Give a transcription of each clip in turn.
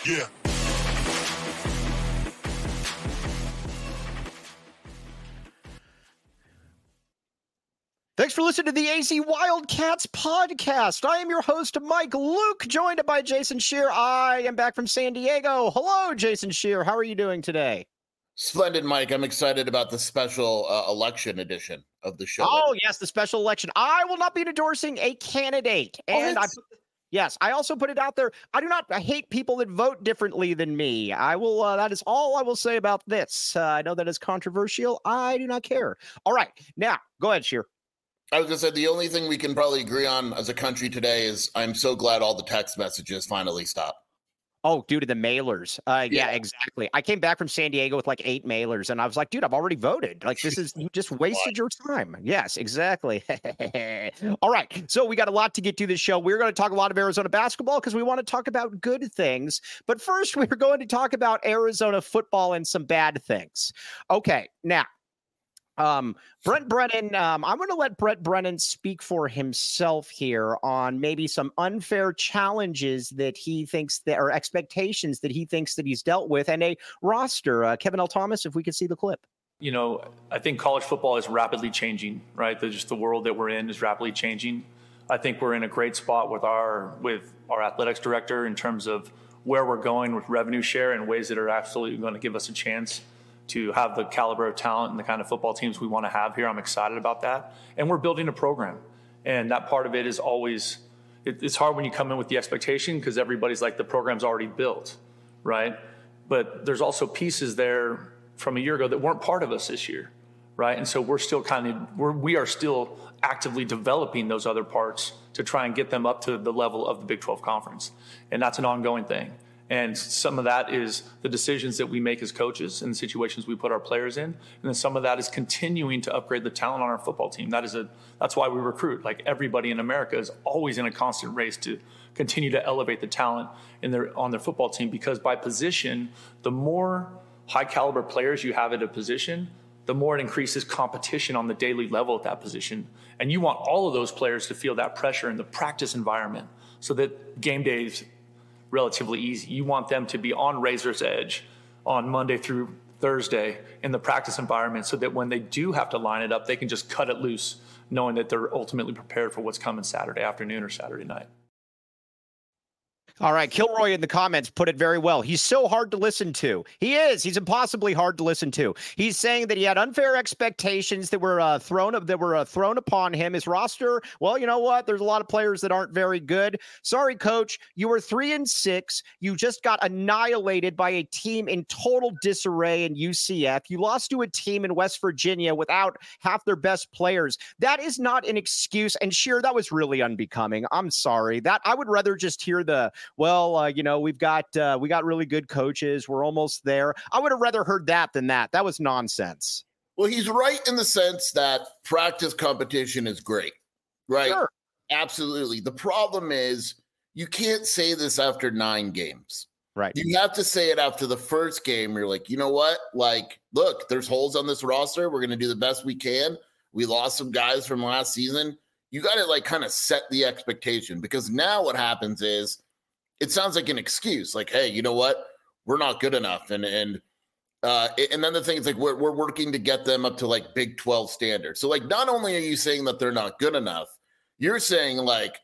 Yeah. Thanks for listening to the AZ Wildcats podcast. I am your host, Mike Luke, joined by Jason Scheer. I am back from San Diego. Hello, Jason Scheer. How are you doing today? Splendid, Mike. I'm excited about the special election edition of the show. Oh, yes, the special election. I will not be endorsing a candidate. And yes, I also put it out there. I hate people that vote differently than me. I will. That is all I will say about this. I know that is controversial. I do not care. All right. Now, go ahead, Scheer. I was going to say the only thing we can probably agree on as a country today is I'm so glad all the text messages finally stopped. Oh, due to the mailers. Yeah, exactly. I came back from San Diego with like 8 mailers, and I was like, dude, I've already voted. Like, you just wasted your time. Yes, exactly. All right. So we got a lot to get to this show. We're going to talk a lot of Arizona basketball because we want to talk about good things. But first, we're going to talk about Arizona football and some bad things. Okay. Now, Brent Brennan, I'm going to let Brent Brennan speak for himself here on maybe some unfair challenges that he thinks or expectations that he thinks that he's dealt with and a roster. Kevin L. Thomas, if we could see the clip. You know, I think college football is rapidly changing, right? The world that we're in is rapidly changing. I think we're in a great spot with our athletics director in terms of where we're going with revenue share in ways that are absolutely going to give us a chance to have the caliber of talent and the kind of football teams we want to have here. I'm excited about that. And we're building a program. And that part of it is always, it's hard when you come in with the expectation because everybody's like, the program's already built, right? But there's also pieces there from a year ago that weren't part of us this year, right? And so we're still we are still actively developing those other parts to try and get them up to the level of the Big 12 Conference. And that's an ongoing thing. And some of that is the decisions that we make as coaches and the situations we put our players in. And then some of that is continuing to upgrade the talent on our football team. That's why we recruit. Like everybody in America is always in a constant race to continue to elevate the talent on their football team, because by position, the more high caliber players you have at a position, the more it increases competition on the daily level at that position. And you want all of those players to feel that pressure in the practice environment so that game days relatively easy. You want them to be on razor's edge on Monday through Thursday in the practice environment so that when they do have to line it up, they can just cut it loose, knowing that they're ultimately prepared for what's coming Saturday afternoon or Saturday night. All right. Kilroy in the comments put it very well. He's so hard to listen to. He is. He's impossibly hard to listen to. He's saying that he had unfair expectations that were thrown upon him. His roster, well, you know what? There's a lot of players that aren't very good. Sorry, coach. You were 3-6. You just got annihilated by a team in total disarray in UCF. You lost to a team in West Virginia without half their best players. That is not an excuse. And Scheer, that was really unbecoming. I'm sorry. That I would rather just hear we've got really good coaches. We're almost there. I would have rather heard that than that. That was nonsense. Well, he's right in the sense that practice competition is great, right? Sure. Absolutely. The problem is you can't say this after 9 games. Right. You have to say it after the first game. You're like, you know what? Like, look, there's holes on this roster. We're going to do the best we can. We lost some guys from last season. You got to kind of set the expectation, because now what happens is, it sounds like an excuse, like, hey, you know what? We're not good enough. And then the thing is, like, we're working to get them up to Big 12 standards. So not only are you saying that they're not good enough, you're saying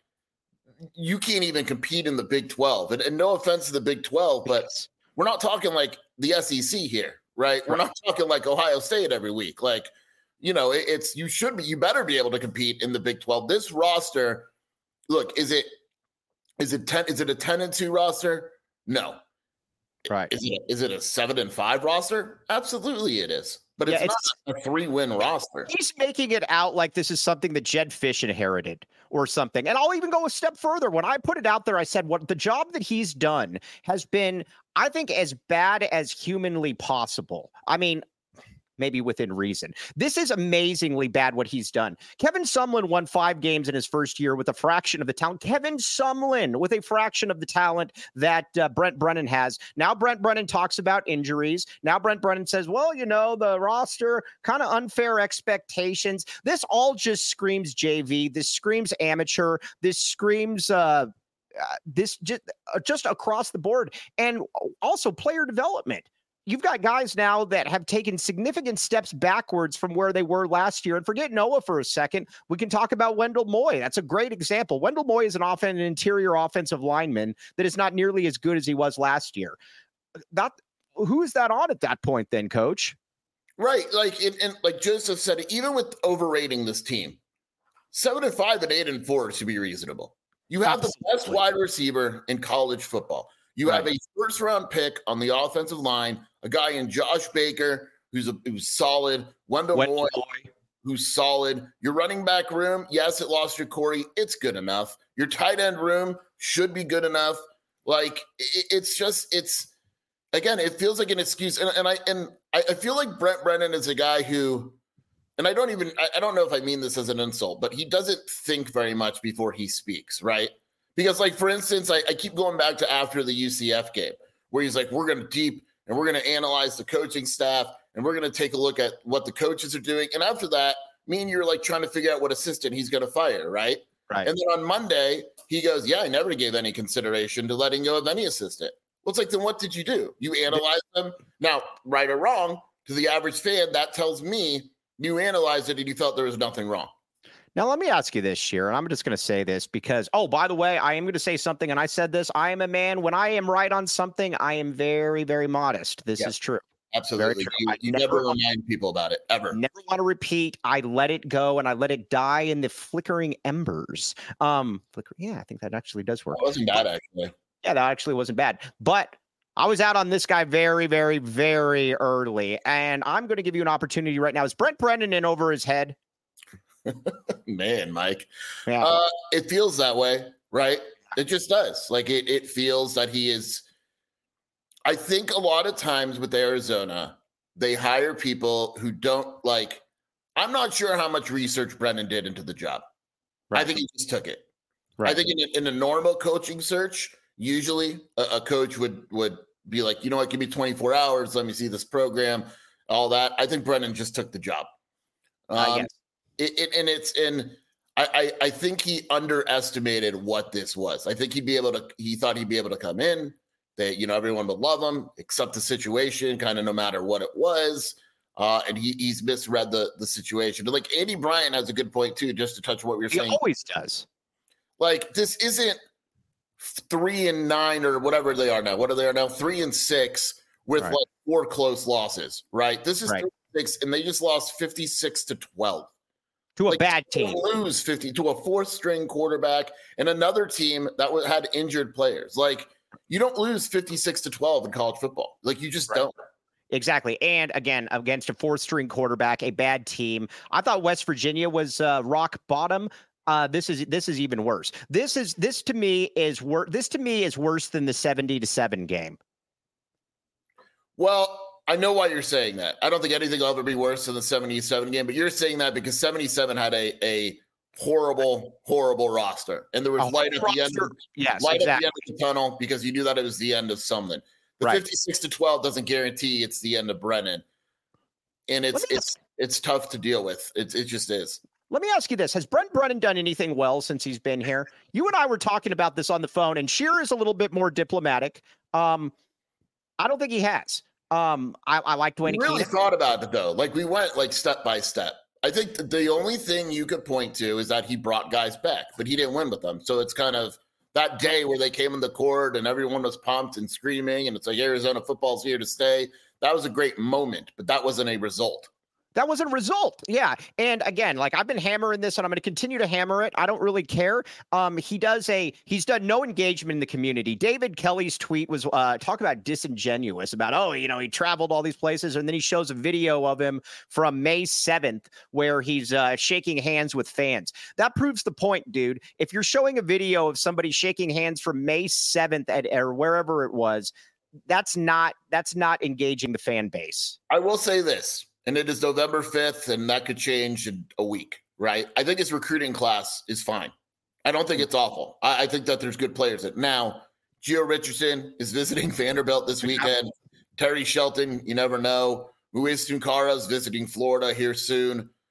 you can't even compete in the Big 12. And no offense to the Big 12, but we're not talking the SEC here, right? We're not talking Ohio State every week. You better be able to compete in the Big 12. This roster, look, Is it a 10-2 roster? No. Right. Is it a 7-5 roster? Absolutely it is. But it's not a 3-win roster. He's making it out like this is something that Jedd Fisch inherited or something. And I'll even go a step further. When I put it out there, I said what the job that he's done has been, I think, as bad as humanly possible. I mean, maybe within reason. This is amazingly bad what he's done. Kevin Sumlin won 5 games in his first year with a fraction of the talent. Kevin Sumlin with a fraction of the talent that Brent Brennan has. Now Brent Brennan talks about injuries. Now Brent Brennan says, well, the roster, kind of unfair expectations. This all just screams JV. This screams amateur. This screams this just across the board, and also player development. You've got guys now that have taken significant steps backwards from where they were last year. And forget Noah for a second. We can talk about Wendell Moy. That's a great example. Wendell Moy is an interior offensive lineman that is not nearly as good as he was last year. Who is that on at that point then, Coach? Right. And like Joseph said, even with overrating this team, 7-5 and 8-4 should be reasonable. You have the best wide receiver in college football. You have a first-round pick on the offensive line, a guy in Josh Baker who's solid, Wendell Moy who's solid. Your running back room, yes, it lost your Corey. It's good enough. Your tight end room should be good enough. Like again, it feels like an excuse. And I feel like Brent Brennan is a guy who, and I don't know if I mean this as an insult, but he doesn't think very much before he speaks, right? Because, like, for instance, I keep going back to after the UCF game where he's like, we're going to deep and we're going to analyze the coaching staff and we're going to take a look at what the coaches are doing. And after that, me and you're like trying to figure out what assistant he's going to fire, right? Right. And then on Monday, he goes, yeah, I never gave any consideration to letting go of any assistant. Well, it's like, then what did you do? You analyzed them. Now, right or wrong, to the average fan, that tells me you analyzed it and you felt there was nothing wrong. Now, let me ask you this, Sheer, and I'm just going to say this because, by the way, I am going to say something, and I said this. I am a man. When I am right on something, I am very, very modest. This is true. Absolutely. You never remind people about it, ever. Never want to repeat. I let it go, and I let it die in the flickering embers. Yeah, I think that actually does work. It wasn't bad, actually. Yeah, that actually wasn't bad. But I was out on this guy very, very, very early, and I'm going to give you an opportunity right now. Is Brent Brennan in over his head? Man, Mike, yeah. It feels that way, right? It just does. Like it feels that he is. I think a lot of times with Arizona, they hire people who don't like. I'm not sure how much research Brennan did into the job. Right. I think he just took it. Right. I think in a normal coaching search, usually a coach would be like, you know what, give me 24 hours. Let me see this program, all that. I think Brennan just took the job. Yes. I think he underestimated what this was. I think he thought he'd be able to come in, that, everyone would love him, accept the situation, kind of no matter what it was. And he's misread the situation. But like Andy Bryant has a good point too, just to touch what we were saying. He always does. Like this isn't 3-9 or whatever they are now. What are they now? 3-6 with like 4 close losses, right? This is 3-6, and they just lost 56-12. To a bad team. Lose 50 to a 4th-string quarterback and another team that had injured players. Like, you don't lose 56-12 in college football. Like, you just don't. Exactly. And again, against a 4th-string quarterback, a bad team. I thought West Virginia was rock bottom. This is even worse. This to me is worse than the 70-7 game. Well, I know why you're saying that. I don't think anything will ever be worse than the 77 game, but you're saying that because 77 had a horrible, horrible roster. And there was light at the end of the tunnel because you knew that it was the end of something. The 56-12 doesn't guarantee it's the end of Brennan. And it's tough to deal with. It just is. Let me ask you this. Has Brent Brennan done anything well since he's been here? You and I were talking about this on the phone, and Shearer is a little bit more diplomatic. I don't think he has. I like Dwayne. We really thought about it though. Like we went like step by step. I think the only thing you could point to is that he brought guys back, but he didn't win with them. So it's kind of that day where they came in the court and everyone was pumped and screaming, and it's like Arizona football's here to stay. That was a great moment, but that wasn't a result. That was a result. Yeah. And again, like I've been hammering this and I'm going to continue to hammer it. I don't really care. He's done no engagement in the community. David Kelly's tweet was talk about disingenuous about, he traveled all these places. And then he shows a video of him from May 7th where he's shaking hands with fans. That proves the point, dude. If you're showing a video of somebody shaking hands from May 7th or wherever it was, that's not engaging the fan base. I will say this. And it is November 5th, and that could change in a week, right? I think his recruiting class is fine. I don't think it's awful. I think that there's good players. Now, Gio Richardson is visiting Vanderbilt this weekend. Terry Shelton, you never know. Luis Tunkara is visiting Florida here soon.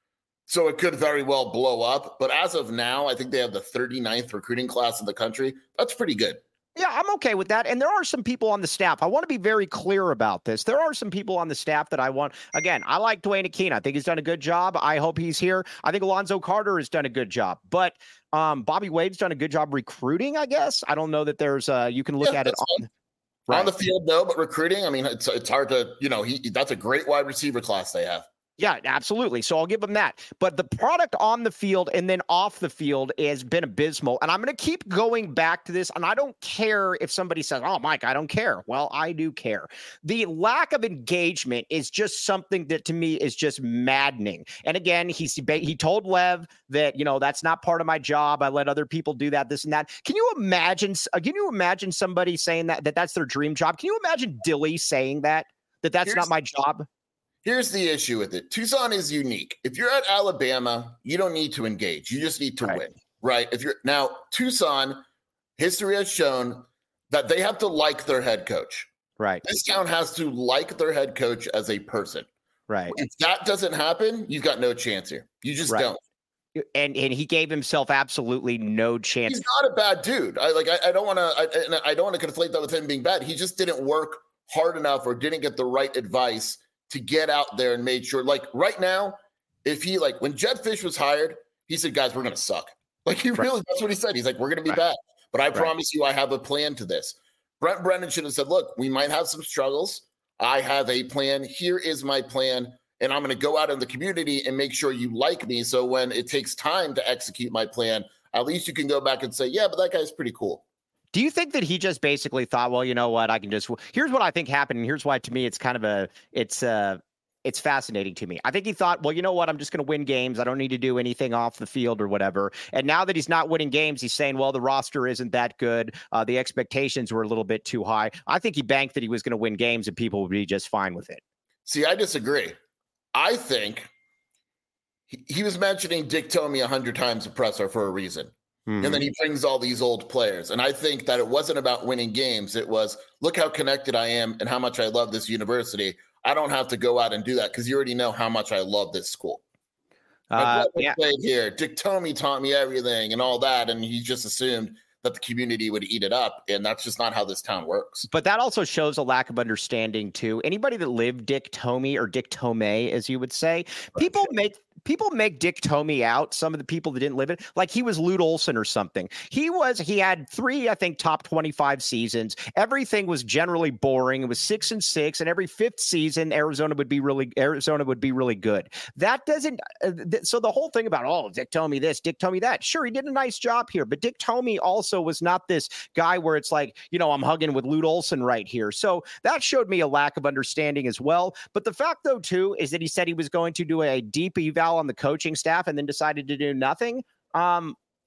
So it could very well blow up. But as of now, I think they have the 39th recruiting class in the country. That's pretty good. Yeah, I'm okay with that. And there are some people on the staff. I want to be very clear about this. There are some people on the staff that I want. Again, I like Dwayne Akina. I think he's done a good job. I hope he's here. I think Alonzo Carter has done a good job. But Bobby Wade's done a good job recruiting, I guess. I don't know that there's you can look at it on the field, no, but recruiting, I mean, it's hard to, that's a great wide receiver class they have. Yeah, absolutely. So I'll give them that. But the product on the field and then off the field has been abysmal. And I'm going to keep going back to this. And I don't care if somebody says, oh, Mike, I don't care. Well, I do care. The lack of engagement is just something that to me is just maddening. And again, he told Lev that, that's not part of my job. I let other people do that, this and that. Can you imagine somebody saying that's their dream job? Can you imagine Dilly saying that's not my job? Here's the issue with it. Tucson is unique. If you're at Alabama, you don't need to engage. You just need to win, right? Now, Tucson, history has shown that they have to like their head coach. Right. This town has to like their head coach as a person. Right. If that doesn't happen, you've got no chance here. You just don't. And he gave himself absolutely no chance. He's not a bad dude. I don't want to conflate that with him being bad. He just didn't work hard enough or didn't get the right advice to get out there and made sure, like right now, when Jedd Fisch was hired, he said, guys, we're going to suck. Like that's what he said. He's like, we're going to be bad, but I promise you, I have a plan to this. Brent Brennan should have said, look, we might have some struggles. I have a plan. Here is my plan. And I'm going to go out in the community and make sure you like me. So when it takes time to execute my plan, at least you can go back and say, yeah, but that guy's pretty cool. Do you think that he just basically thought, well, you know what, here's what I think happened. And here's why, to me, it's kind of it's fascinating to me. I think he thought, well, you know what, I'm just going to win games. I don't need to do anything off the field or whatever. And now that he's not winning games, he's saying, well, the roster isn't that good. The expectations were a little bit too high. I think he banked that he was going to win games and people would be just fine with it. See, I disagree. I think he was mentioning Dick Tomey 100 times a presser for a reason. Mm-hmm. And then he brings all these old players. And I think that it wasn't about winning games. It was, look how connected I am and how much I love this university. I don't have to go out and do that because you already know how much I love this school. Here, Dick Tomey taught me everything and all that. And he just assumed that the community would eat it up. And that's just not how this town works. But that also shows a lack of understanding too. Anybody that lived Dick Tomey or Dick Tomey, as you would say, people make Dick Tomey out. Some of the people that didn't live it, like he was Lute Olson or something. He had 3, I think, top 25 seasons. Everything was generally boring. It was 6-6, and every 5th season, Arizona would be really good. That doesn't. So the whole thing about Dick Tomey this, Dick Tomey that. Sure, he did a nice job here, but Dick Tomey also was not this guy where it's like, I'm hugging with Lute Olson right here. So that showed me a lack of understanding as well. But the fact, though, too, is that he said he was going to do a deep eval on the coaching staff and then decided to do nothing. I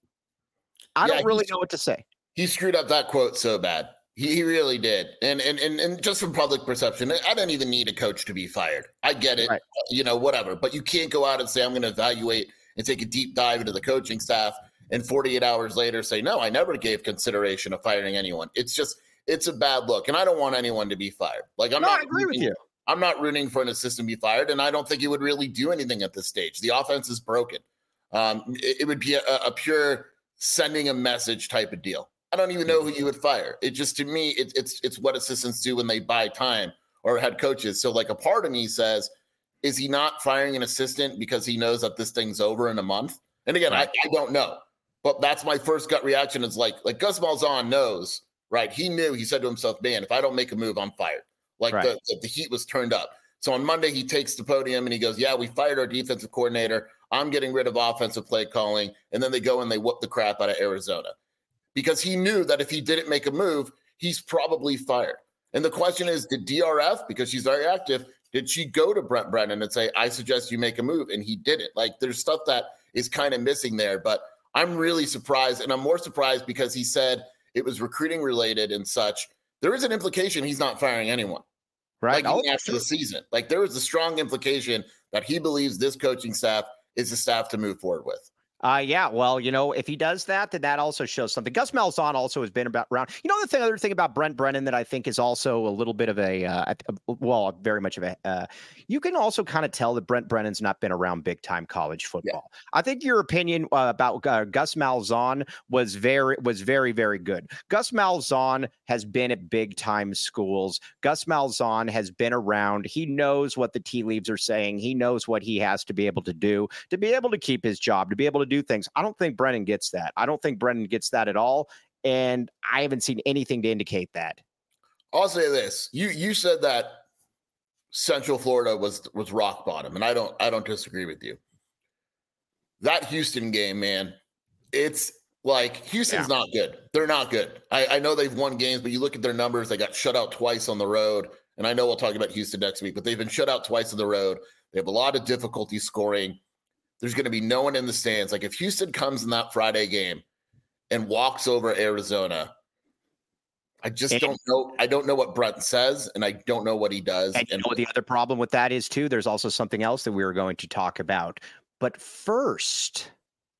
don't really know what to say. He screwed up that quote so bad. He really did. And just from public perception, I don't even need a coach to be fired. I get it, whatever. But you can't go out and say, I'm going to evaluate and take a deep dive into the coaching staff and 48 hours later say, no, I never gave consideration of firing anyone. It's a bad look. And I don't want anyone to be fired. Like I agree with you. I'm not rooting for an assistant to be fired, and I don't think he would really do anything at this stage. The offense is broken. It would be a pure sending a message type of deal. I don't even know who you would fire. It just, to me, it's what assistants do when they buy time or head coaches. So like a part of me says, is he not firing an assistant because he knows that this thing's over in a month? And again, I don't know, but that's my first gut reaction is like Gus Malzahn knows, right? He knew, he said to himself, man, if I don't make a move, I'm fired. The heat was turned up. So on Monday, he takes the podium and he goes, yeah, we fired our defensive coordinator. I'm getting rid of offensive play calling. And then they go and they whoop the crap out of Arizona because he knew that if he didn't make a move, he's probably fired. And the question is, did DRF, because she's very active, did she go to Brent Brennan and say, I suggest you make a move? And he didn't. Like there's stuff that is kind of missing there, but I'm really surprised. And I'm more surprised because he said it was recruiting related and such. There is an implication he's not firing anyone. Right. After the season. Like there was a strong implication that he believes this coaching staff is the staff to move forward with. Yeah, well, if he does that, then that also shows something. Gus Malzahn also has been around. Other thing about Brent Brennan that I think is also a little bit of very much of a. You can also kind of tell that Brent Brennan's not been around big time college football. Yeah. I think your opinion about Gus Malzahn was very, very good. Gus Malzahn has been at big time schools. Gus Malzahn has been around. He knows what the tea leaves are saying. He knows what he has to be able to do to be able to keep his job, to be able to do things. I don't think Brennan gets that. I don't think Brennan gets that at all. And I haven't seen anything to indicate that. I'll say this. You said that Central Florida was rock bottom, and I don't disagree with you. That Houston game, man, it's like Houston's not good. They're not good. I know they've won games, but you look at their numbers, they got shut out twice on the road. And I know we'll talk about Houston next week, but they've been shut out twice on the road. They have a lot of difficulty scoring. There's going to be no one in the stands. Like if Houston comes in that Friday game and walks over Arizona, I just don't know. I don't know what Brent says, and I don't know what he does. And you know what the other problem with that is, too? There's also something else that we were going to talk about. But first,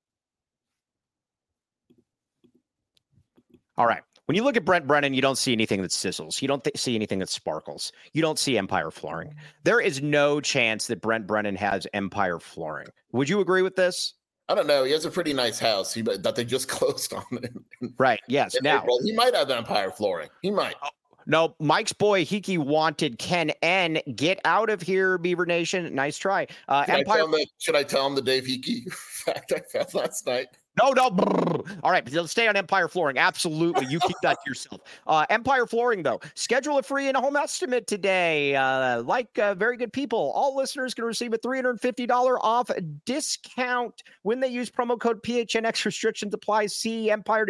all right. When you look at Brent Brennan, you don't see anything that sizzles. You don't see anything that sparkles. You don't see Empire Flooring. There is no chance that Brent Brennan has Empire Flooring. Would you agree with this? I don't know. He has a pretty nice house that they just closed on. Right. Yes. Now he might have Empire Flooring. He might. No, Mike's boy Hiki wanted Ken N. Get out of here, Beaver Nation. Nice try. Should I tell him the Dave Hiki fact I found last night? No. All right, let's stay on Empire Flooring. Absolutely. You keep that to yourself. Empire Flooring, though. Schedule a free in-home estimate today. Very good people, all listeners can receive a $350 off discount when they use promo code PHNX. Restrictions apply. See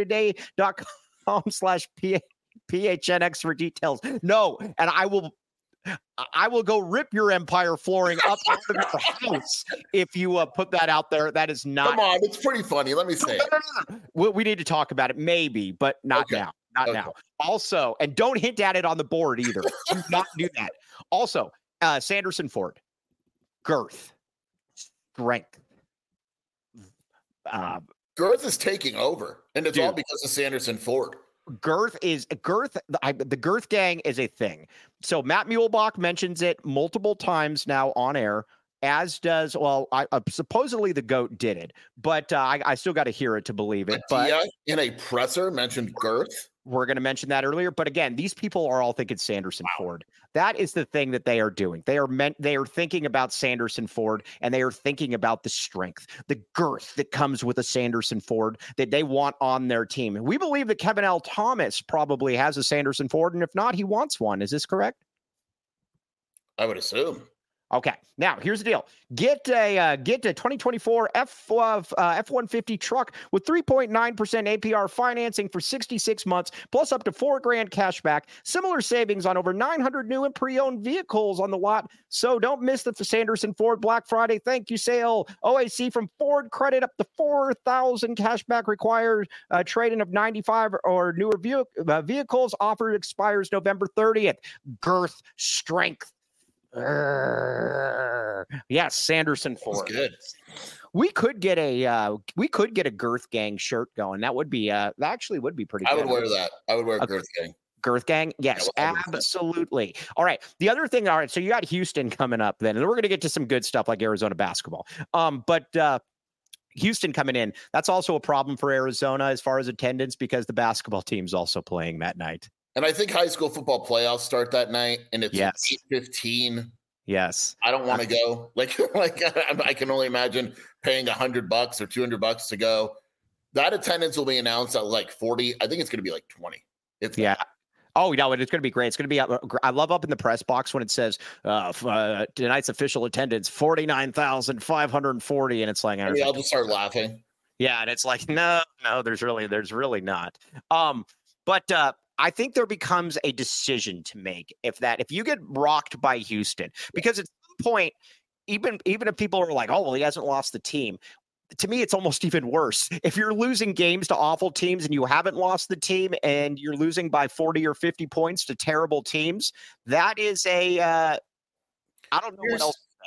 empiretoday.com/PHNX for details. No, and I will go rip your Empire Flooring up out of your house if you put that out there. That is not. Come on, it's pretty funny. Let me say it. We need to talk about it, maybe, but not now. Not now. Also, and don't hint at it on the board either. Do not do that. Also, Sanderson Ford, girth, strength. Girth is taking over, and it's all because of Sanderson Ford. The girth gang is a thing. So Matt Muehlbach mentions it multiple times now on air, as does, supposedly the GOAT did it, but I still got to hear it to believe it. But in a presser mentioned girth. We're going to mention that earlier. But again, these people are all thinking Sanderson Ford. That is the thing that they are doing. They are thinking about Sanderson Ford, and they are thinking about the strength, the girth that comes with a Sanderson Ford that they want on their team. We believe that Kevin L. Thomas probably has a Sanderson Ford, and if not, he wants one. Is this correct? I would assume. Okay, now here's the deal. Get a 2024 F-150 truck with 3.9% APR financing for 66 months, plus up to $4,000 cash back. Similar savings on over 900 new and pre-owned vehicles on the lot. So don't miss the Sanderson Ford Black Friday thank you sale. OAC from Ford credit up to $4,000 cash back required. Trade-in of 95 or newer vehicles. Offer expires November 30th. Girth, strength. Yes, Sanderson Ford. That's good. We could get a Girth Gang shirt going. That would be that actually would be pretty good. I would wear that. I would wear a Girth Gang. Girth Gang? Yes, absolutely. All right. The other thing, all right, so you got Houston coming up then, and we're going to get to some good stuff like Arizona basketball. But Houston coming in, that's also a problem for Arizona as far as attendance because the basketball team's also playing that night. And I think high school football playoffs start that night, and it's 8:15. Yes, I don't want to go. Like I can only imagine paying $100 or $200 to go. That attendance will be announced at like 40. I think it's going to be like 20. Oh, no, it's going to be great. It's going to be, I love up in the press box when it says tonight's official attendance, 49,540. And it's like, I'll just start laughing. Yeah. And it's like, no, there's really not. But I think there becomes a decision to make if you get rocked by Houston, because at some point, even if people are like, oh, well, he hasn't lost the team. To me, it's almost even worse. If you're losing games to awful teams and you haven't lost the team and you're losing by 40 or 50 points to terrible teams, that is I don't know what else to say.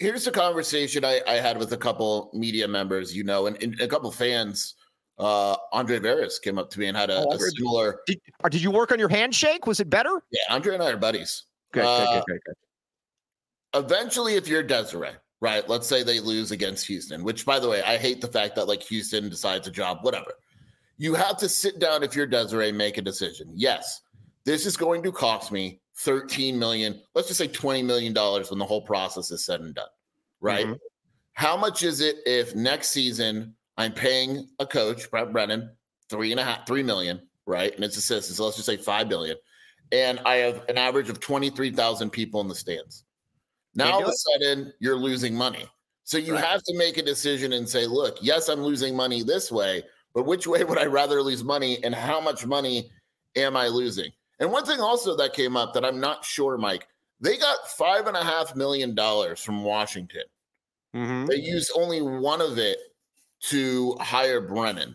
Here's a conversation I had with a couple media members, and a couple fans. Andre Veras came up to me and had a similar. Did you work on your handshake? Was it better? Yeah, Andre and I are buddies. Good. Eventually, if you're Desiree, right? Let's say they lose against Houston, which, by the way, I hate the fact that like Houston decides a job, whatever. You have to sit down if you're Desiree, make a decision. Yes, this is going to cost me $13 million. Let's just say $20 million when the whole process is said and done, right? Mm-hmm. How much is it if next season I'm paying a coach, Brett Brennan, $3 million, right? And it's assistants, so let's just say $5 million, and I have an average of 23,000 people in the stands. Now all of a sudden you're losing money. So you have to make a decision and say, look, yes, I'm losing money this way, but which way would I rather lose money and how much money am I losing? And one thing also that came up that I'm not sure, Mike, they got $5.5 million from Washington. Mm-hmm. They used only one of it to hire Brennan.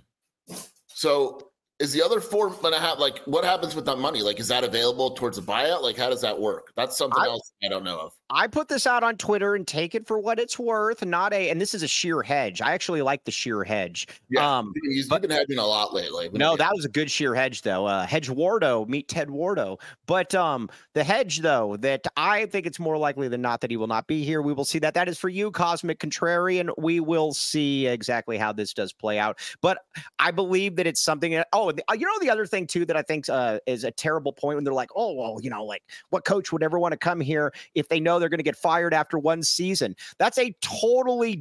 So is the other 4.5, like, what happens with that money? Like, is that available towards a buyout? Like, how does that work? That's something else I don't know of. I put this out on Twitter and take it for what it's worth. And this is a sheer hedge. I actually like the sheer hedge. Yeah, you've been hedging a lot lately. No, that was a good sheer hedge, though. Hedge Wardo, meet Ted Wardo. But the hedge, though, that I think it's more likely than not that he will not be here. We will see that. That is for you, Cosmic Contrarian. We will see exactly how this does play out. But I believe that it's something. The other thing, too, that I think is a terrible point when they're like, oh, well, like what coach would ever want to come here if they know they're going to get fired after one season? This is a totally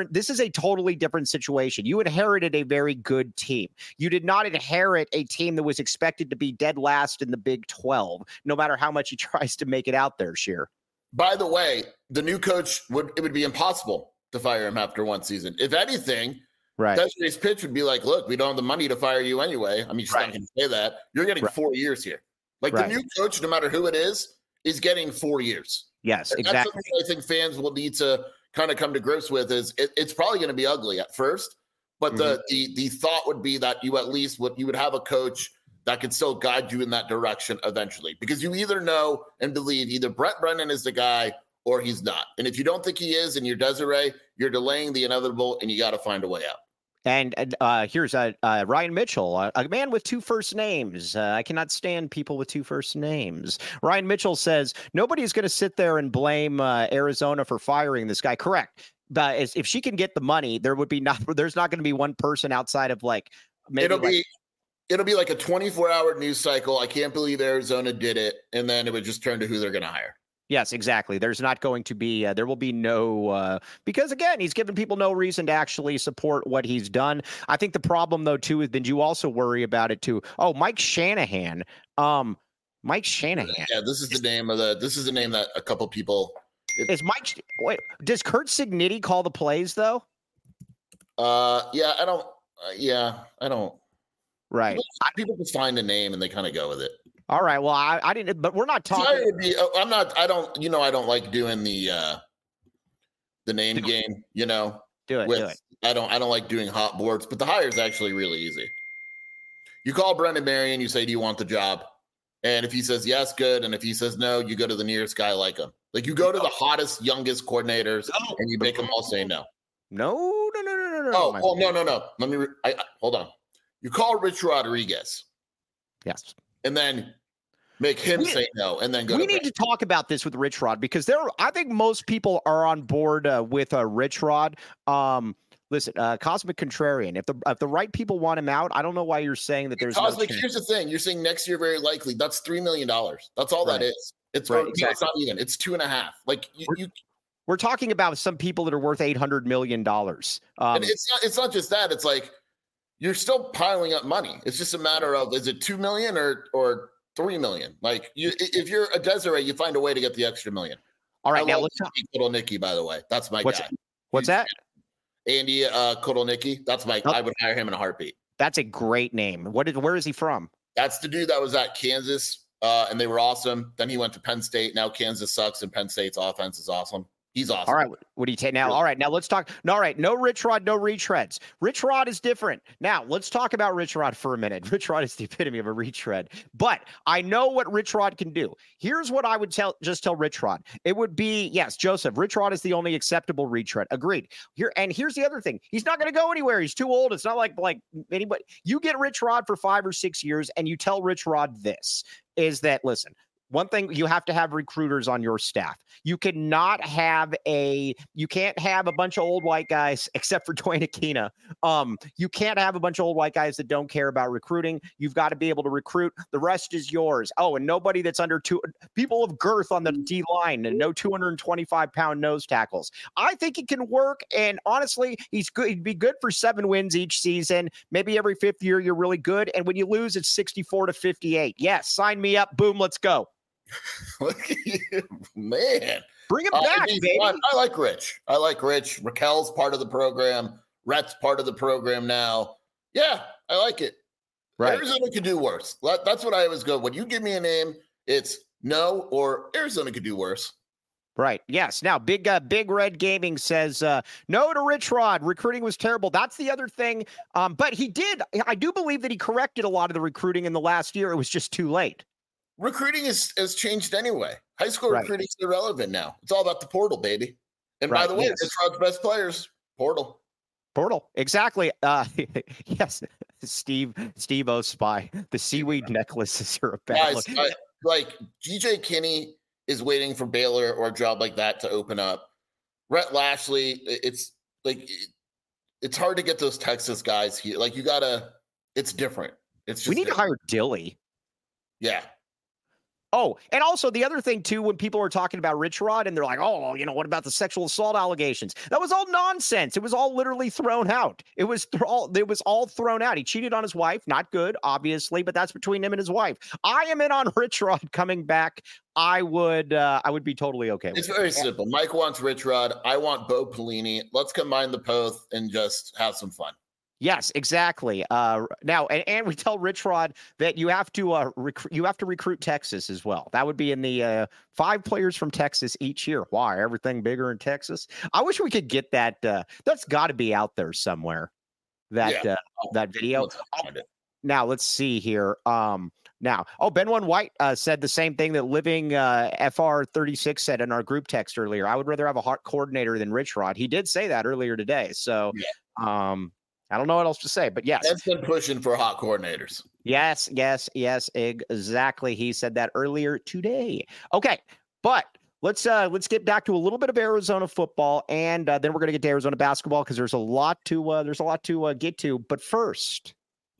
different situation. You inherited a very good team. You did not inherit a team that was expected to be dead last in the Big 12, no matter how much he tries to make it out there, Sheer. By the way, the new coach it would be impossible to fire him after one season. If anything, right. Desiree's pitch would be like, look, we don't have the money to fire you anyway. I mean, she's not going to say that. You're getting 4 years here. Like the new coach, no matter who it is getting 4 years. Yes, exactly. That's something I think fans will need to kind of come to grips with is it's probably going to be ugly at first, but the thought would be that you would have a coach that could still guide you in that direction eventually, because you either know and believe either Brett Brennan is the guy or he's not. And if you don't think he is and you're Desiree, you're delaying the inevitable and you got to find a way out. And here's Ryan Mitchell, a man with two first names. I cannot stand people with two first names. Ryan Mitchell says nobody's going to sit there and blame Arizona for firing this guy. Correct. But if she can get the money, there's not going to be one person outside of like maybe it'll be like a 24-hour news cycle. I can't believe Arizona did it, and then it would just turn to who they're going to hire. Yes, exactly. There's not going to be, there will be no, because again, he's given people no reason to actually support what he's done. I think the problem though, too, is then you also worry about it too. Oh, Mike Shanahan. Mike Shanahan. Yeah, this is the name that a couple people. Is Mike, wait, does Kurt Signetti call the plays though? Yeah, I don't. Right. People just find a name and they kind of go with it. All right. Well, I didn't, but we're not talking. I don't like doing the name game, Do it. I don't like doing hot boards, but the hire is actually really easy. You call Brendan Marion, you say, do you want the job? And if he says yes, good. And if he says no, you go to the nearest guy like him. Like you go to the hottest, youngest coordinators and you make them all say no. No. Oh, no. Let me, hold on. You call Rich Rodriguez. Yes. And then make him say no, and then go. We need to talk about this with Rich Rod because I think most people are on board with Rich Rod. Listen, Cosmic Contrarian. If the right people want him out, I don't know why you're saying that there's Cosmic. No here's the thing: you're saying next year very likely. That's $3 million. That's all that is. It's exactly. It's not even. It's 2.5. Like we're talking about some people that are worth $800 million. And it's not just that. It's like. You're still piling up money. It's just a matter of, is it 2 million or 3 million? Like if you're a Desiree, you find a way to get the extra million. All right. Now let's talk. Kotelnicki, by the way, that's my guy. What's that? Andy Kotelnicki. That's my, I would hire him in a heartbeat. That's a great name. Where is he from? That's the dude that was at Kansas and they were awesome. Then he went to Penn State. Now Kansas sucks and Penn State's offense is awesome. He's awesome. All right, what do you take now? All right, now let's talk. All right, no Rich Rod, no retreads. Rich Rod is different. Now let's talk about Rich Rod for a minute. Rich Rod is the epitome of a retread, but I know what Rich Rod can do. Here's what I would tell Rich Rod. It would be, yes, Joseph, Rich Rod is the only acceptable retread. Agreed. Here's the other thing. He's not going to go anywhere. He's too old. It's not like anybody. You get Rich Rod for 5 or 6 years, and you tell Rich Rod this is that, listen, one thing, you have to have recruiters on your staff. You can't have a bunch of old white guys, except for Dwayne Aquina. You can't have a bunch of old white guys that don't care about recruiting. You've got to be able to recruit. The rest is yours. Oh, and nobody that's under people of girth on the D line, and no 225-pound nose tackles. I think it can work. And honestly, he's good. He'd be good for 7 wins each season. Maybe every 5th year you're really good. And when you lose, it's 64-58. Yes, sign me up. Boom, let's go. Look at you, man. Bring him back, baby. I like Rich. Raquel's part of the program. Rhett's part of the program now. Yeah, I like it. Right. Arizona could do worse. That's what I always go. When you give me a name, it's no or Arizona could do worse. Right. Yes. Now, Big Red Gaming says no to Rich Rod. Recruiting was terrible. That's the other thing. But I do believe that he corrected a lot of the recruiting in the last year. It was just too late. Recruiting has changed anyway. High school recruiting is irrelevant now. It's all about the portal, baby. And by the way, Rich Rod's best players, portal. Exactly. Yes. Steve O Spy. The seaweed necklaces are a bad look. Like GJ Kinney is waiting for Baylor or a job like that to open up. Rhett Lashley, it's like it's hard to get those Texas guys here. Like it's different. It's just we need to hire Dilly. Yeah. Oh, and also the other thing, too, when people are talking about Rich Rod and they're like, oh, what about the sexual assault allegations? That was all nonsense. It was all literally thrown out. It was all thrown out. He cheated on his wife. Not good, obviously, but that's between him and his wife. I am in on Rich Rod coming back. I would be totally okay with it. It's very simple. Mike wants Rich Rod. I want Bo Pelini. Let's combine the both and just have some fun. Yes, exactly. Now, and we tell Rich Rod that you have to recruit Texas as well. That would be in the 5 players from Texas each year. Why? Everything bigger in Texas? I wish we could get that. That's got to be out there somewhere. That video. Now let's see here. Ben White said the same thing that Living FR36 said in our group text earlier. I would rather have a hot coordinator than Rich Rod. He did say that earlier today. So, I don't know what else to say, but yes. That's been pushing for hot coordinators. Yes, exactly. He said that earlier today. Okay, but let's get back to a little bit of Arizona football, and then we're going to get to Arizona basketball because there's a lot to get to. But first,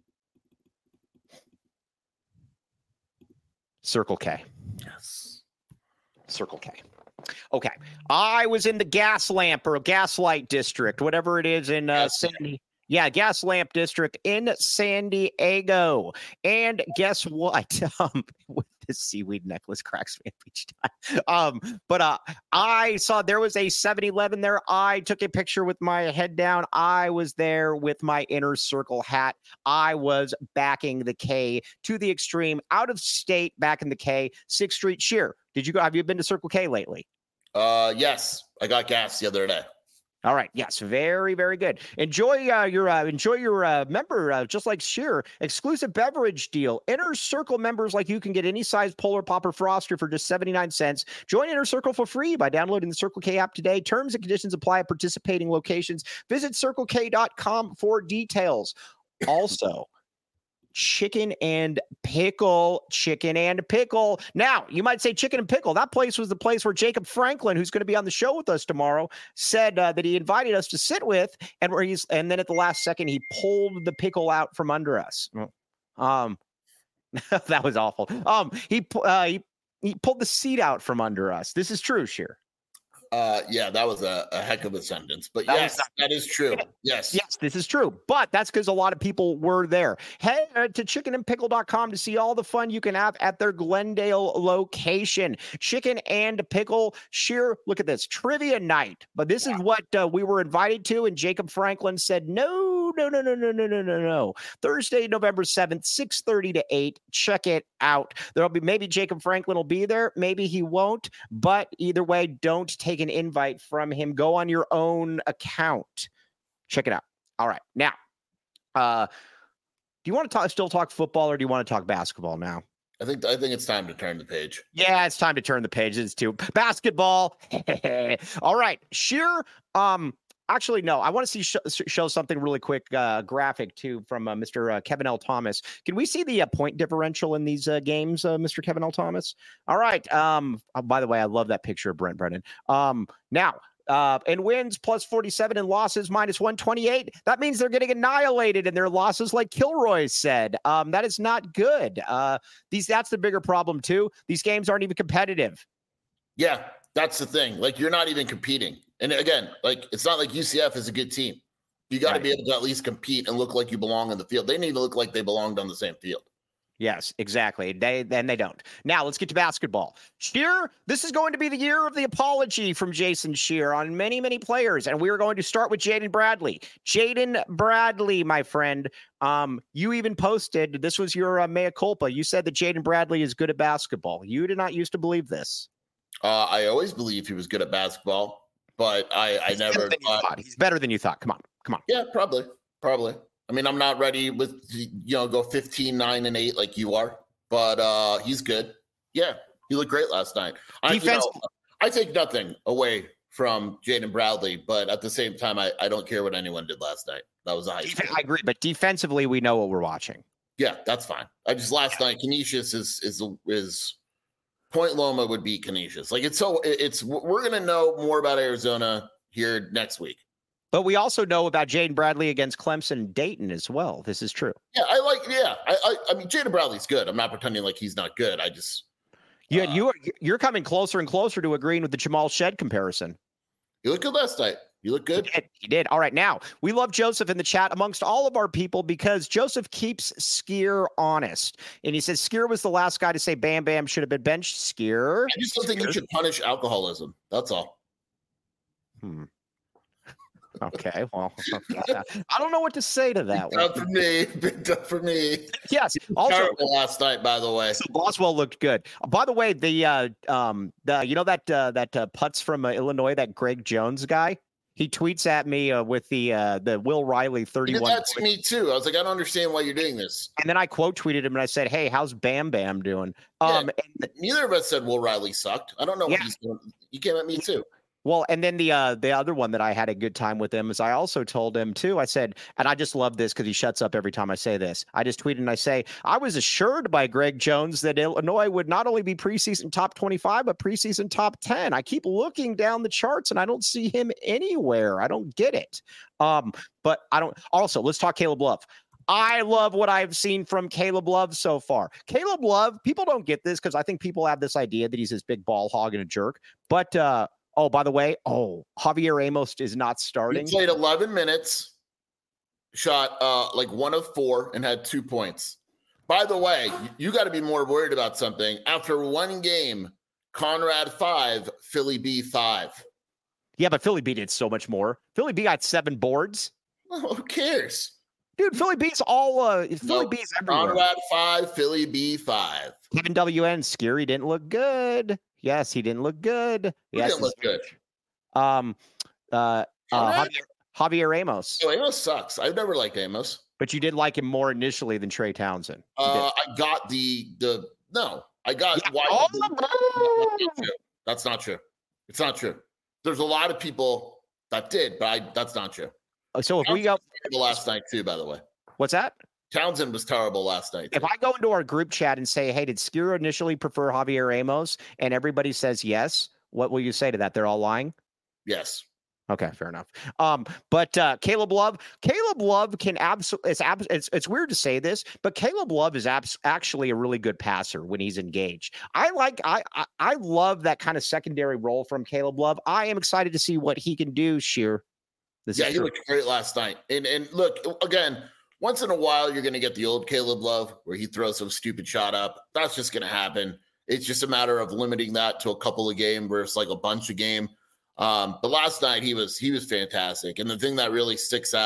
Circle K. Yes, Circle K. Okay, I was in the Gaslight district, whatever it is in Gaslamp District in San Diego. And guess what? With this seaweed necklace cracks me up each time. But I saw there was a 7-Eleven there. I took a picture with my head down. I was there with my Inner Circle hat. I was backing the K to the extreme, out of state, back in the K, 6th Street Sheer. Have you been to Circle K lately? Yes. I got gas the other day. All right. Yes. Very, very good. Enjoy your member, just like Sheer, exclusive beverage deal. Inner Circle members like you can get any size Polar Pop or Froster for just 79 cents. Join Inner Circle for free by downloading the Circle K app today. Terms and conditions apply at participating locations. Visit CircleK.com for details. Also, chicken and pickle. Now, you might say chicken and pickle. That place was the place where Jacob Franklin, who's going to be on the show with us tomorrow, said that he invited us to sit with, and then at the last second he pulled the pickle out from under us. That was awful. He pulled the seat out from under us. This is true, Sheer. That was a heck of a sentence, but yes, that is true. Yes, this is true, but that's because a lot of people were there. Head to chickenandpickle.com to see all the fun you can have at their Glendale location. Chicken and Pickle. Sheer, look at this trivia night, but this is what we were invited to, and Jacob Franklin said, no, No. Thursday, November 7th, 6:30 to 8. Check it out. There'll be maybe Jacob Franklin will be there. Maybe he won't. But either way, don't take an invite from him. Go on your own account. Check it out. All right. Now, do you want to still talk football, or do you want to talk basketball now? I think it's time to turn the page. Yeah, it's time to turn the page. It's to basketball. All right. Scheer. Actually, no. I want to show something really quick, graphic too, from Mr. Kevin L. Thomas. Can we see the point differential in these games, Mr. Kevin L. Thomas? All right. By the way, I love that picture of Brent Brennan. Now. And wins plus 47 and losses minus 128. That means they're getting annihilated in their losses, like Kilroy said. That is not good. That's the bigger problem too. These games aren't even competitive. Yeah, that's the thing. Like, you're not even competing. And again, like, it's not like UCF is a good team. You got to be able to at least compete and look like you belong on the field. They need to look like they belonged on the same field. Yes, exactly. They don't. Now let's get to basketball. Scheer, this is going to be the year of the apology from Jason Scheer on many, many players. And we are going to start with Jaden Bradley. Jaden Bradley, my friend. You even posted, this was your mea culpa. You said that Jaden Bradley is good at basketball. You did not used to believe this. I always believed he was good at basketball, but I never thought. He's better than you thought. Come on. Yeah, probably. I mean, I'm not ready with, go 15, 9, and 8 like you are, but he's good. Yeah, he looked great last night. I take nothing away from Jaden Bradley, but at the same time, I don't care what anyone did last night. That was I agree, but defensively, we know what we're watching. Yeah, that's fine. Last night, Canisius is Point Loma would be Canisius. Like, we're gonna know more about Arizona here next week. But we also know about Jaden Bradley against Clemson and Dayton as well. This is true. Yeah, I mean, Jaden Bradley's good. I'm not pretending like he's not good. I just you're coming closer and closer to agreeing with the Jamal Shed comparison. You look good last night. You look good. He did. All right. Now, we love Joseph in the chat amongst all of our people because Joseph keeps Scheer honest. And he says Scheer was the last guy to say Bam Bam should have been benched. Scheer. I just don't think you should punish alcoholism. That's all. Okay, well, I don't know what to say to that. Big done for me. Yes. Also, terrible last night, by the way. So Boswell looked good. By the way, that putts from Illinois, that Greg Jones guy. He tweets at me with the Will Riley 31. He did that to me too. I was like, I don't understand why you're doing this. And then I quote tweeted him and I said, "Hey, how's Bam Bam doing?" Neither of us said Will Riley sucked. I don't know what he's doing. He came at me too. Well, and then the other one that I had a good time with him is I also told him too. I said, and I just love this because he shuts up every time I say this. I just tweeted and I say, I was assured by Greg Jones that Illinois would not only be preseason top 25, but preseason top 10. I keep looking down the charts and I don't see him anywhere. I don't get it. But I don't. Also, let's talk Caleb Love. I love what I've seen from Caleb Love so far. Caleb Love, people don't get this because I think people have this idea that he's this big ball hog and a jerk. But oh, by the way, Javier Amos is not starting. He played 11 minutes, shot like 1 of 4, and had 2 points. By the way, you got to be more worried about something. After one game, Conrad 5, Philly B 5. Yeah, but Philly B did so much more. Philly B got 7 boards. Well, who cares? Dude, Philly B's all Philly B's everywhere. Conrad 5, Philly B 5. Kevin WN, Scary didn't look good. Yes, he didn't look good. He didn't look good. Javier Amos. Oh, Amos sucks. I've never liked Amos. But you did like him more initially than Trey Townsend. I got That's not true. It's not true. There's a lot of people that did, but that's not true. So if we go last night too, by the way. What's that? Townsend was terrible last night. If I go into our group chat and say, hey, did Skira initially prefer Javier Amos? And everybody says yes. What will you say to that? They're all lying? Yes. Okay, fair enough. But Caleb Love can absolutely, it's weird to say this, but Caleb Love is actually a really good passer when he's engaged. I love that kind of secondary role from Caleb Love. I am excited to see what he can do, Scheer. He looked great last night. And look, again, once in a while, you're going to get the old Caleb Love where he throws some stupid shot up. That's just going to happen. It's just a matter of limiting that to a couple of games versus like a bunch of game. But last night he was fantastic. And the thing that really sticks out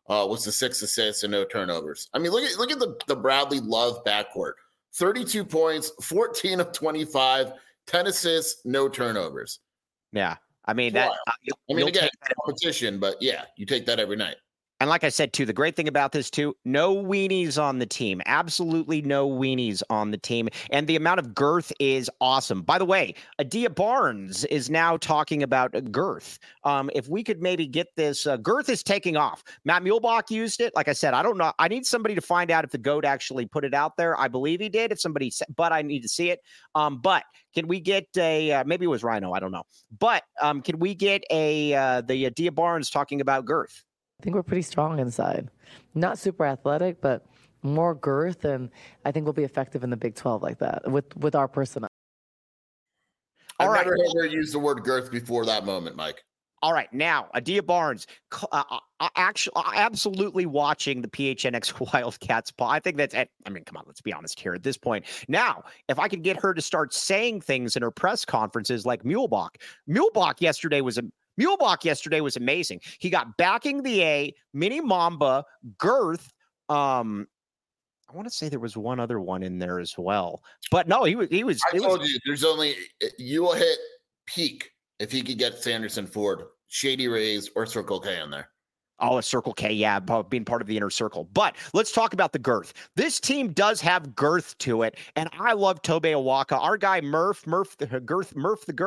was the 6 assists and no turnovers. I mean, look at the Bradley Love backcourt. 32 points, 14 of 25, 10 assists, no turnovers. Yeah. I mean, again, that competition, but yeah, you take that every night. And like I said, too, the great thing about this, too, no weenies on the team. Absolutely no weenies on the team. And the amount of girth is awesome. By the way, Adia Barnes is now talking about girth. If we could maybe get this, girth is taking off. Matt Muehlebach used it. Like I said, I don't know. I need somebody to find out if the GOAT actually put it out there. I believe he did. But I need to see it. But can we get maybe it was Rhino. I don't know. But can we get the Adia Barnes talking about girth? I think we're pretty strong inside. Not super athletic, but more girth, and I think we'll be effective in the Big 12 like that with our personnel. I've never heard her use the word girth before that moment, Mike. All right, now Adia Barnes, actually, absolutely watching the PHNX Wildcats. I think that's. I mean, come on, let's be honest here at this point. Now, if I could get her to start saying things in her press conferences like Muehlebach. Muehlebach yesterday was amazing. He got backing the A, Mini Mamba, girth. I want to say there was one other one in there as well, but no, he was. I told you, there's only you will hit peak if he could get Sanderson Ford, Shady Rays, or Circle K in there. Oh, a Circle K, yeah, being part of the inner circle. But let's talk about the girth. This team does have girth to it, and I love Tobe Awaka. Our guy Murph the girth.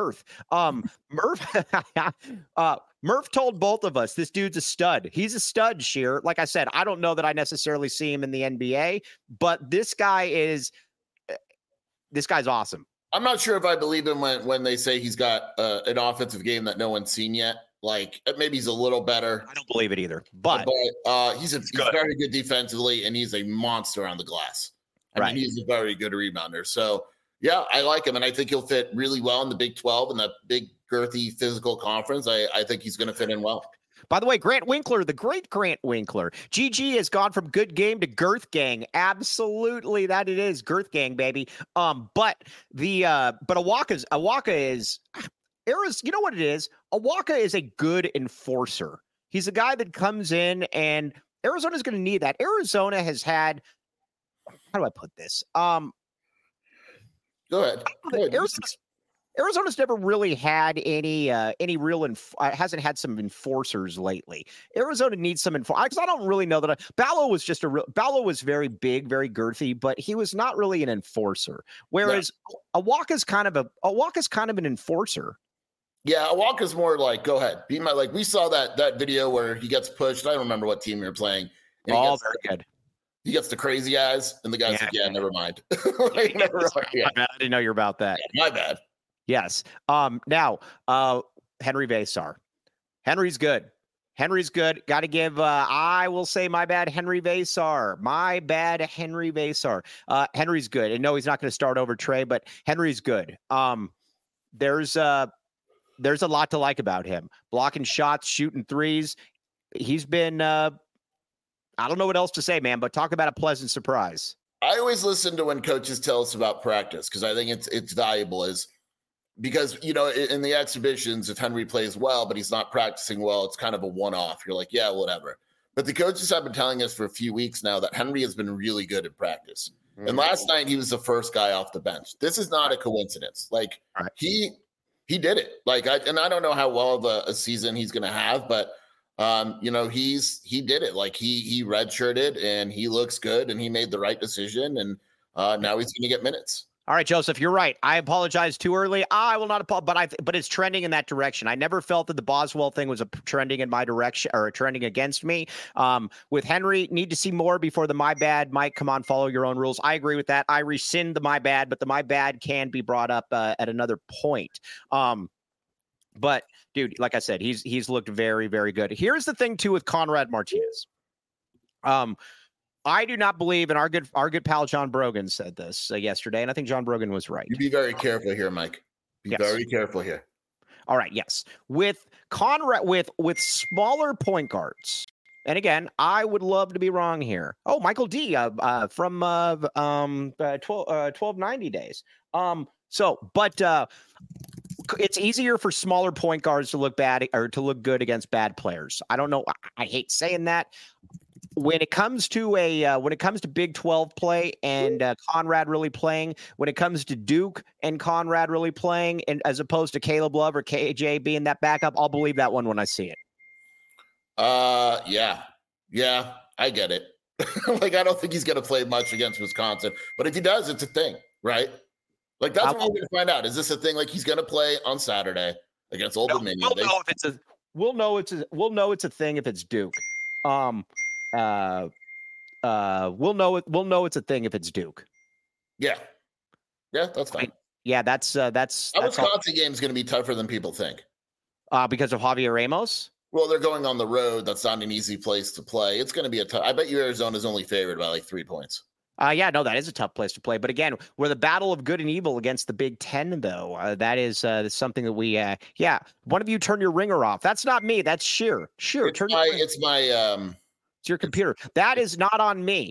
Murph told both of us this dude's a stud. He's a stud, Sheer. Like I said, I don't know that I necessarily see him in the NBA, but this guy's awesome. I'm not sure if I believe him when they say he's got an offensive game that no one's seen yet. Like maybe he's a little better. I don't believe it either, but he's very good defensively, and he's a monster on the glass. I mean, he's a very good rebounder. So yeah, I like him, and I think he'll fit really well in the Big 12 and that big girthy physical conference. I think he's going to fit in well. By the way, Grant Winkler, the great Grant Winkler, GG has gone from good game to girth gang. Absolutely, that it is girth gang, baby. But Awaka is. You know what it is? Awaka is a good enforcer. He's a guy that comes in, and Arizona's going to need that. Arizona has had, how do I put this? Go ahead. Arizona's never really had any real hasn't had some enforcers lately. Arizona needs some because I don't really know that Ballo was very big, very girthy, but he was not really an enforcer. Whereas Awaka's kind of an enforcer. Yeah, Awaka's more like, go ahead, be my, like we saw that video where he gets pushed. I don't remember what team you're playing. Very good. He gets the crazy eyes, and the guy's like, yeah, never mind. I didn't know you're about that. Yeah, my bad. Yes. Now, Henry Vesar. Henry's good. Got to give, I will say my bad, Henry Vesar. Henry's good. And no, he's not going to start over Trey, but Henry's good. There's a lot to like about him. Blocking shots, shooting threes. He's been, I don't know what else to say, man, but talk about a pleasant surprise. I always listen to when coaches tell us about practice because I think it's valuable because, in the exhibitions, if Henry plays well, but he's not practicing well, it's kind of a one-off. You're like, yeah, whatever. But the coaches have been telling us for a few weeks now that Henry has been really good at practice. Mm-hmm. And last night he was the first guy off the bench. This is not a coincidence. Like he did it. I don't know how well of a season he's going to have, but he did it. Like he redshirted and he looks good and he made the right decision. And now he's going to get minutes. All right, Joseph, you're right. I apologize too early. I will not apologize, but it's trending in that direction. I never felt that the Boswell thing was trending in my direction or trending against me. With Henry, need to see more before the my bad might come on, follow your own rules. I agree with that. I rescind the my bad, but the my bad can be brought up at another point. But dude, like I said, he's looked very, very good. Here's the thing too with Conrad Martinez. I do not believe, and our good pal John Brogan said this yesterday, and I think John Brogan was right. You be very careful here, Mike. Be very careful here. All right, yes. With Conrad, with smaller point guards, and again, I would love to be wrong here. Oh, Michael D. From 1290 days. it's easier for smaller point guards to look bad or to look good against bad players. I don't know. I hate saying that. When it comes to Big 12 play and Conrad really playing, when it comes to Duke and Conrad really playing, and as opposed to Caleb Love or KJ being that backup, I'll believe that one when I see it. Yeah, I get it. Like, I don't think he's going to play much against Wisconsin, but if he does, it's a thing, right? Like, that's what we're going to find out. Is this a thing? Like, he's going to play on Saturday against Old Dominion. We'll know it's a thing if it's Duke. We'll know it's a thing if it's Duke. Yeah, that's fine. That's Wisconsin game is going to be tougher than people think. Because of Javier Ramos. Well, they're going on the road. That's not an easy place to play. It's going to be a tough. I bet you Arizona's only favored by like 3 points. That is a tough place to play. But again, we're the battle of good and evil against the Big Ten, though. That is something that we, one of you turn your ringer off. That's not me. That's Sheer. It's your computer. That is not on me.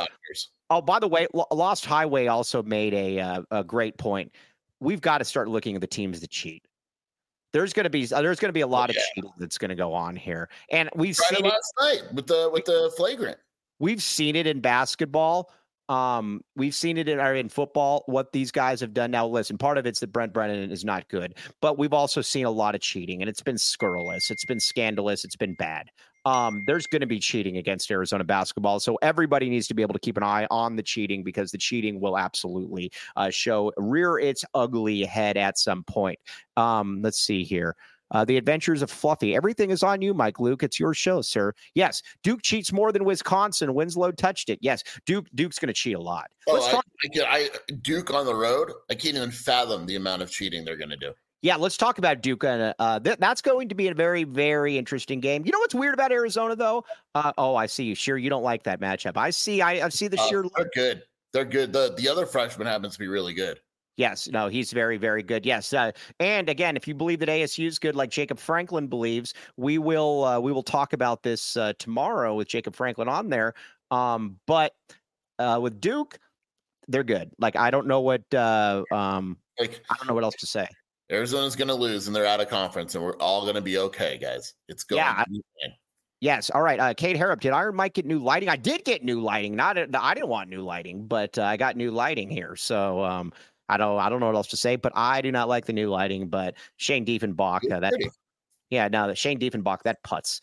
By the way, Lost Highway also made a great point. We've got to start looking at the teams that cheat. There's going to be a lot of cheating that's going to go on here, and we've seen it last night with the flagrant. We've seen it in basketball. We've seen it in football, what these guys have done. Now, listen, part of it's that Brent Brennan is not good, but we've also seen a lot of cheating, and it's been scurrilous. It's been scandalous. It's been bad. There's going to be cheating against Arizona basketball. So everybody needs to be able to keep an eye on the cheating, because the cheating will absolutely rear its ugly head at some point. Let's see here. The Adventures of Fluffy. Everything is on you, Mike Luke. It's your show, sir. Yes, Duke cheats more than Wisconsin. Winslow touched it. Yes, Duke's going to cheat a lot. Duke on the road, I can't even fathom the amount of cheating they're going to do. Yeah, let's talk about Duke. That's going to be a very, very interesting game. You know what's weird about Arizona, though? I see you. Sure, you don't like that matchup. I see the sheer. They're good. They're good. The other freshman happens to be really good. Yes, no, he's very, very good. Yes, and again, if you believe that ASU is good, like Jacob Franklin believes, we will talk about this tomorrow with Jacob Franklin on there. But with Duke, they're good. Like, I don't know what I don't know what else to say. Arizona's going to lose, and they're out of conference, and we're all going to be okay, guys. It's going to be fine. Yes. All right. Kate Harrop, did Iron Mike get new lighting? I did get new lighting. I didn't want new lighting, but I got new lighting here. So I don't know what else to say, but I do not like the new lighting. But Shane Diefenbach, Shane Diefenbach, that putz.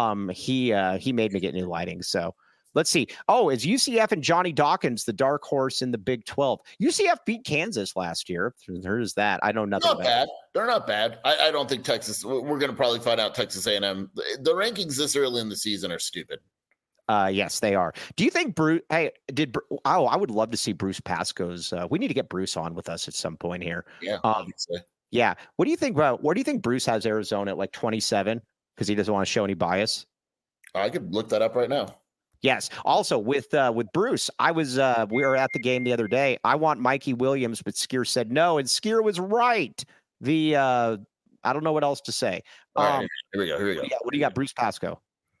He made me get new lighting. So let's see. Oh, is UCF and Johnny Dawkins the dark horse in the Big 12? UCF beat Kansas last year. There's that. I know nothing about it. They're not bad. I don't think Texas. We're going to probably find out Texas A&M. The rankings this early in the season are stupid. Yes, they are. Do you think Bruce? Hey, I would love to see Bruce Pascoe's. We need to get Bruce on with us at some point here. Yeah, obviously. Yeah. What do you think about? Where do you think Bruce has Arizona at like 27 because he doesn't want to show any bias? I could look that up right now. Yes. Also, with Bruce, we were at the game the other day. I want Mikey Williams, but Skier said no, and Skier was right. I don't know what else to say. All right, here we go. What do you got, Bruce Pascoe?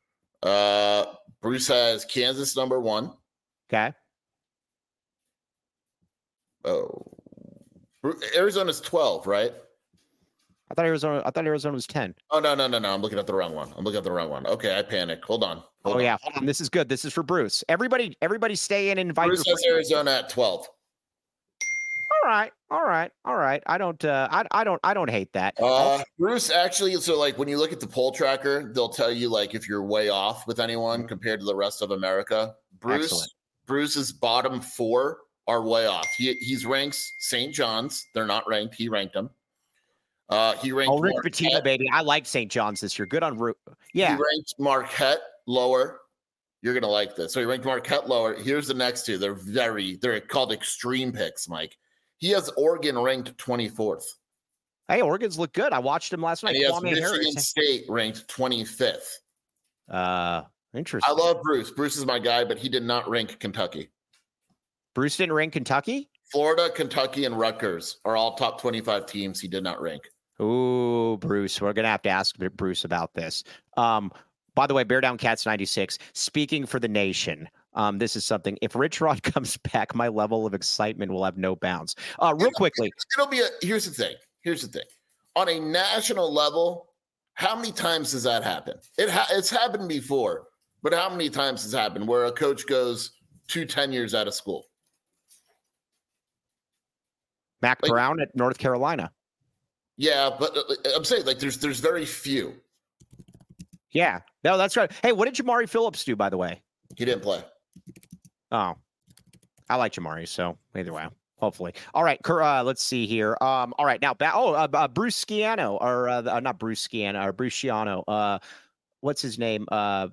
Bruce has Kansas number 1. Okay. Oh, Arizona's 12, right? I thought Arizona was 10. Oh, no. I'm looking at the wrong one. Okay, I panicked. Hold on. Hold on. This is good. This is for Bruce. Everybody stay in and invite Bruce has Arizona at 12. All right. I don't hate that. Bruce actually, so like when you look at the poll tracker, they'll tell you like if you're way off with anyone compared to the rest of America. Bruce's bottom 4 are way off. He's ranks St. John's. They're not ranked. He ranked them. He ranked Rick Pitino, baby. I like St. John's this year. Good on Root. Yeah. He ranked Marquette lower. You're gonna like this. So he ranked Marquette lower. Here's the next two. They're called extreme picks, Mike. He has Oregon ranked 24th. Hey, Oregon's look good. I watched him last night. And he has Michigan State ranked 25th. Interesting. I love Bruce. Bruce is my guy, but he did not rank Kentucky. Bruce didn't rank Kentucky? Florida, Kentucky, and Rutgers are all top 25 teams he did not rank. Ooh, Bruce. We're going to have to ask Bruce about this. By the way, Bear Down Cats 96, speaking for the nation. This is something. If Rich Rod comes back, my level of excitement will have no bounds. Real quickly. Here's the thing. on a national level, how many times does that happen? It's happened before, but how many times has happened where a coach goes 2 tenures out of school? Mac Brown at North Carolina. Yeah, but I'm saying like there's very few. Yeah, no, that's right. Hey, what did Jamari Phillips do, by the way? He didn't play. Oh, I like Jamari, so either way, hopefully. All right, let's see here. All right, now Bruce Schiano, or not Bruce Schiano, or Bruce Schiano. What's his name? Greg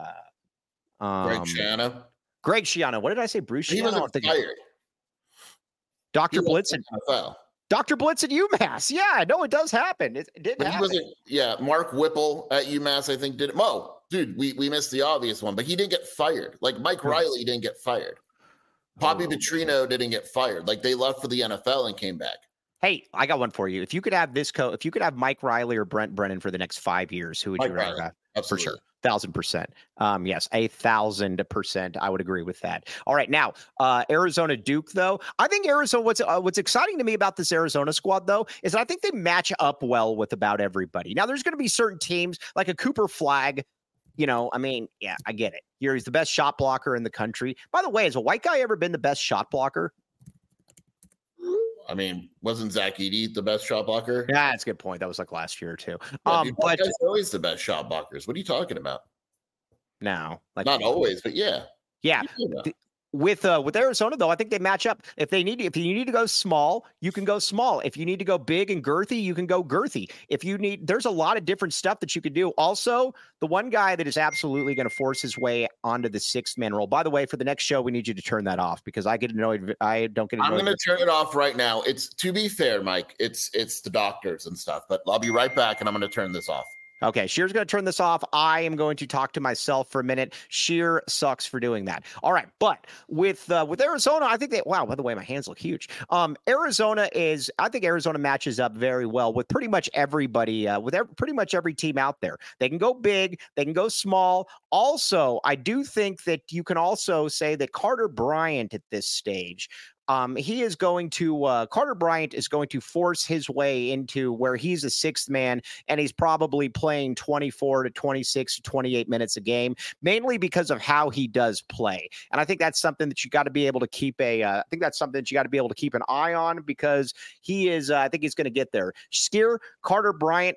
Schiano. Greg Schiano. What did I say? Bruce Schiano. He wasn't fired. Dr. Blitz at Dr. Blitz at UMass. Yeah, no, it does happen. It did happen. Mark Whipple at UMass, I think, did it. Mo, dude, we missed the obvious one, but he didn't get fired. Like Mike Riley didn't get fired. Bobby Petrino didn't get fired. Like they left for the NFL and came back. Hey, I got one for you. If you could have if you could have Mike Riley or Brent Brennan for the next 5 years, who would you rather have? Absolutely. For sure. 1,000%. Yes, 1,000%. I would agree with that. All right, now Arizona Duke, though. I think Arizona. What's exciting to me about this Arizona squad, though, is I think they match up well with about everybody. Now, there's going to be certain teams like a Cooper Flagg. You know, I mean, yeah, I get it. He's the best shot blocker in the country. By the way, has a white guy ever been the best shot blocker? I mean, wasn't Zach Edey the best shot blocker? Yeah, that's a good point. That was like last year too. Yeah, but guys are always the best shot blockers. What are you talking about? No, like not always, but yeah. With Arizona though, I think they match up. If you need to go small, you can go small. If you need to go big and girthy, you can go girthy. There's a lot of different stuff that you could do. Also, the one guy that is absolutely going to force his way onto the 6th man role. By the way, for the next show, we need you to turn that off because I get annoyed. I don't get annoyed. I'm going to turn it off right now. It's, to be fair, Mike, it's the doctors and stuff, but I'll be right back and I'm going to turn this off. Okay, Shear's going to turn this off. I am going to talk to myself for a minute. Shear sucks for doing that. All right, but with Arizona, I think wow, by the way, my hands look huge. I think Arizona matches up very well with pretty much everybody, pretty much every team out there. They can go big, they can go small. Also, I do think that you can also say that Carter Bryant at this stage, Carter Bryant is going to force his way into where he's a 6th man and he's probably playing 24 to 26 to 28 minutes a game, mainly because of how he does play. And I think that's something that you got to be able to keep an eye on because I think he's going to get there. Skier, Carter Bryant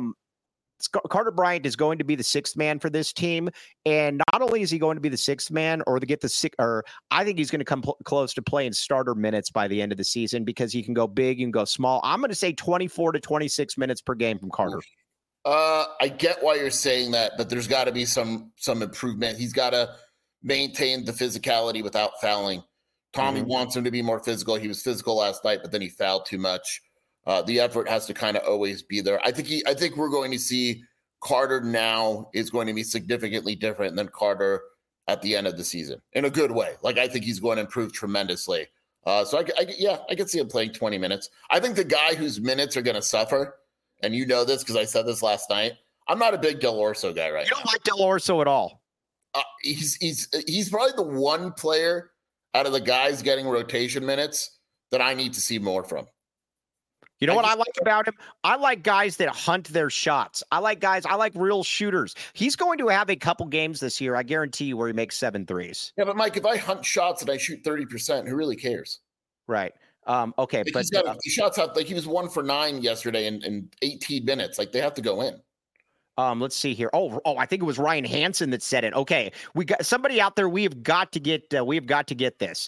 is going to be the 6th man for this team. And not only is he going to be the 6th man I think he's going to come close to playing starter minutes by the end of the season because he can go big and go small. I'm going to say 24 to 26 minutes per game from Carter. I get why you're saying that, but there's got to be some improvement. He's got to maintain the physicality without fouling. Tommy wants him to be more physical. He was physical last night, but then he fouled too much. The effort has to kind of always be there. I think we're going to see Carter now is going to be significantly different than Carter at the end of the season in a good way. Like I think he's going to improve tremendously. So I could see him playing 20 minutes. I think the guy whose minutes are going to suffer, and you know this because I said this last night. I'm not a big Del Orso guy right now. You don't like Del Orso at all. He's probably the one player out of the guys getting rotation minutes that I need to see more from. You know what I like about him? I like guys that hunt their shots. I like real shooters. He's going to have a couple games this year, I guarantee you, where he makes 7 threes. Yeah, but Mike, if I hunt shots and I shoot 30%, who really cares? Right. Okay. Like but he shots out like he was 1 for 9 yesterday in 18 minutes. Like they have to go in. Let's see here. Oh, I think it was Ryan Hansen that said it. Okay. We got somebody out there. We have got to get this.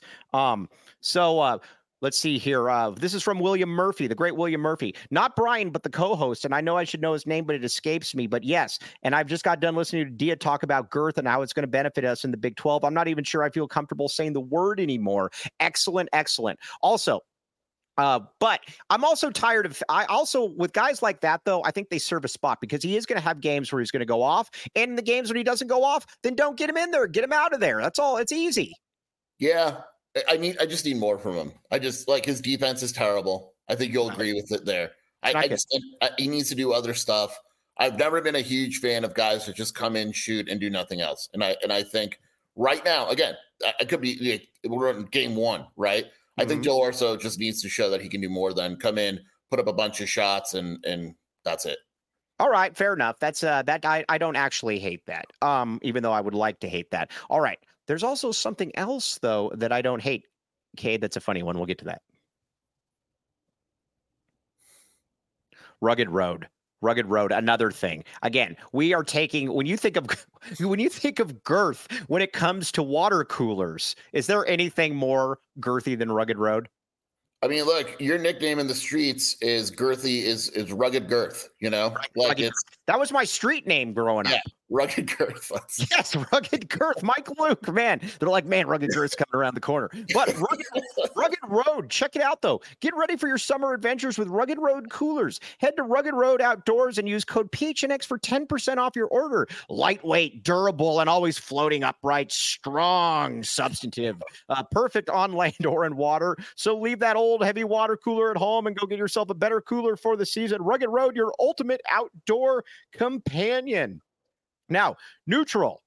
Let's see here. This is from William Murphy, the great William Murphy. Not Brian, but the co-host. And I know I should know his name, but it escapes me. But yes, and I've just got done listening to Dia talk about girth and how it's going to benefit us in the Big 12. I'm not even sure I feel comfortable saying the word anymore. Excellent, excellent. Also, but I'm also tired of with guys like that, though, I think they serve a spot because he is going to have games where he's going to go off. And in the games when he doesn't go off, then don't get him in there. Get him out of there. That's all. It's easy. Yeah. I just need more from him. I just like his defense is terrible. I think you'll agree with it there. He needs to do other stuff. I've never been a huge fan of guys that just come in, shoot, and do nothing else. And I think right now, again, I could be we're in game 1, right? I think Del Orso just needs to show that he can do more than come in, put up a bunch of shots, and that's it. All right, fair enough. That's that I don't actually hate that. Even though I would like to hate that. All right. There's also something else though that I don't hate. Okay, that's a funny one. We'll get to that. Rugged Road, another thing. Again, we are taking when you think of girth when it comes to water coolers, is there anything more girthy than Rugged Road? I mean, look, your nickname in the streets is Girthy, is Rugged Girth, like that was my street name growing up. Rugged Girth. Yes, Rugged Girth. Mike Luke, man. They're like, man, Rugged Girth's coming around the corner. But Rugged Road, check it out, though. Get ready for your summer adventures with Rugged Road coolers. Head to Rugged Road Outdoors and use code PHNX for 10% off your order. Lightweight, durable, and always floating upright. Strong, substantive. Perfect on land or in water. So leave that old heavy water cooler at home and go get yourself a better cooler for the season. Rugged Road, your ultimate outdoor companion. Now, neutral.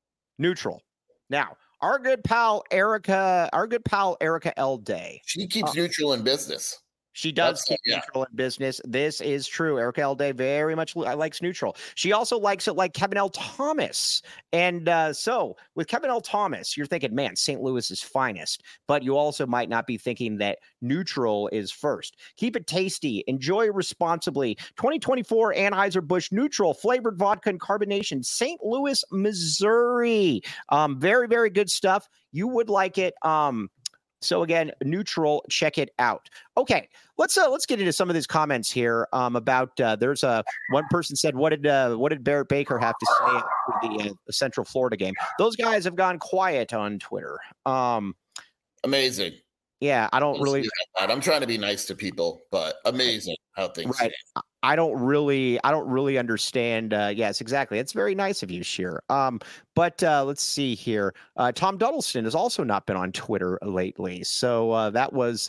Now, our good pal Erica L. Day. She keeps neutral in business. She does keep neutral in business. This is true. Erica L. Day very much likes neutral. She also likes it like Kevin L. Thomas. And so with Kevin L. Thomas, you're thinking, man, St. Louis's finest. But you also might not be thinking that neutral is first. Keep it tasty. Enjoy responsibly. 2024 Anheuser-Busch Neutral flavored vodka and carbonation. St. Louis, Missouri. Very, very good stuff. You would like it. So again, neutral, check it out. Okay, let's get into some of these comments here about there's one person said, what did Barrett Baker have to say after the Central Florida game? Those guys have gone quiet on Twitter. Amazing. Yeah, I don't really. I'm trying to be nice to people, but amazing how things. Right. I don't really understand. Yes, exactly. It's very nice of you, Sheer. But let's see here. Tom Duddleston has also not been on Twitter lately. So that was,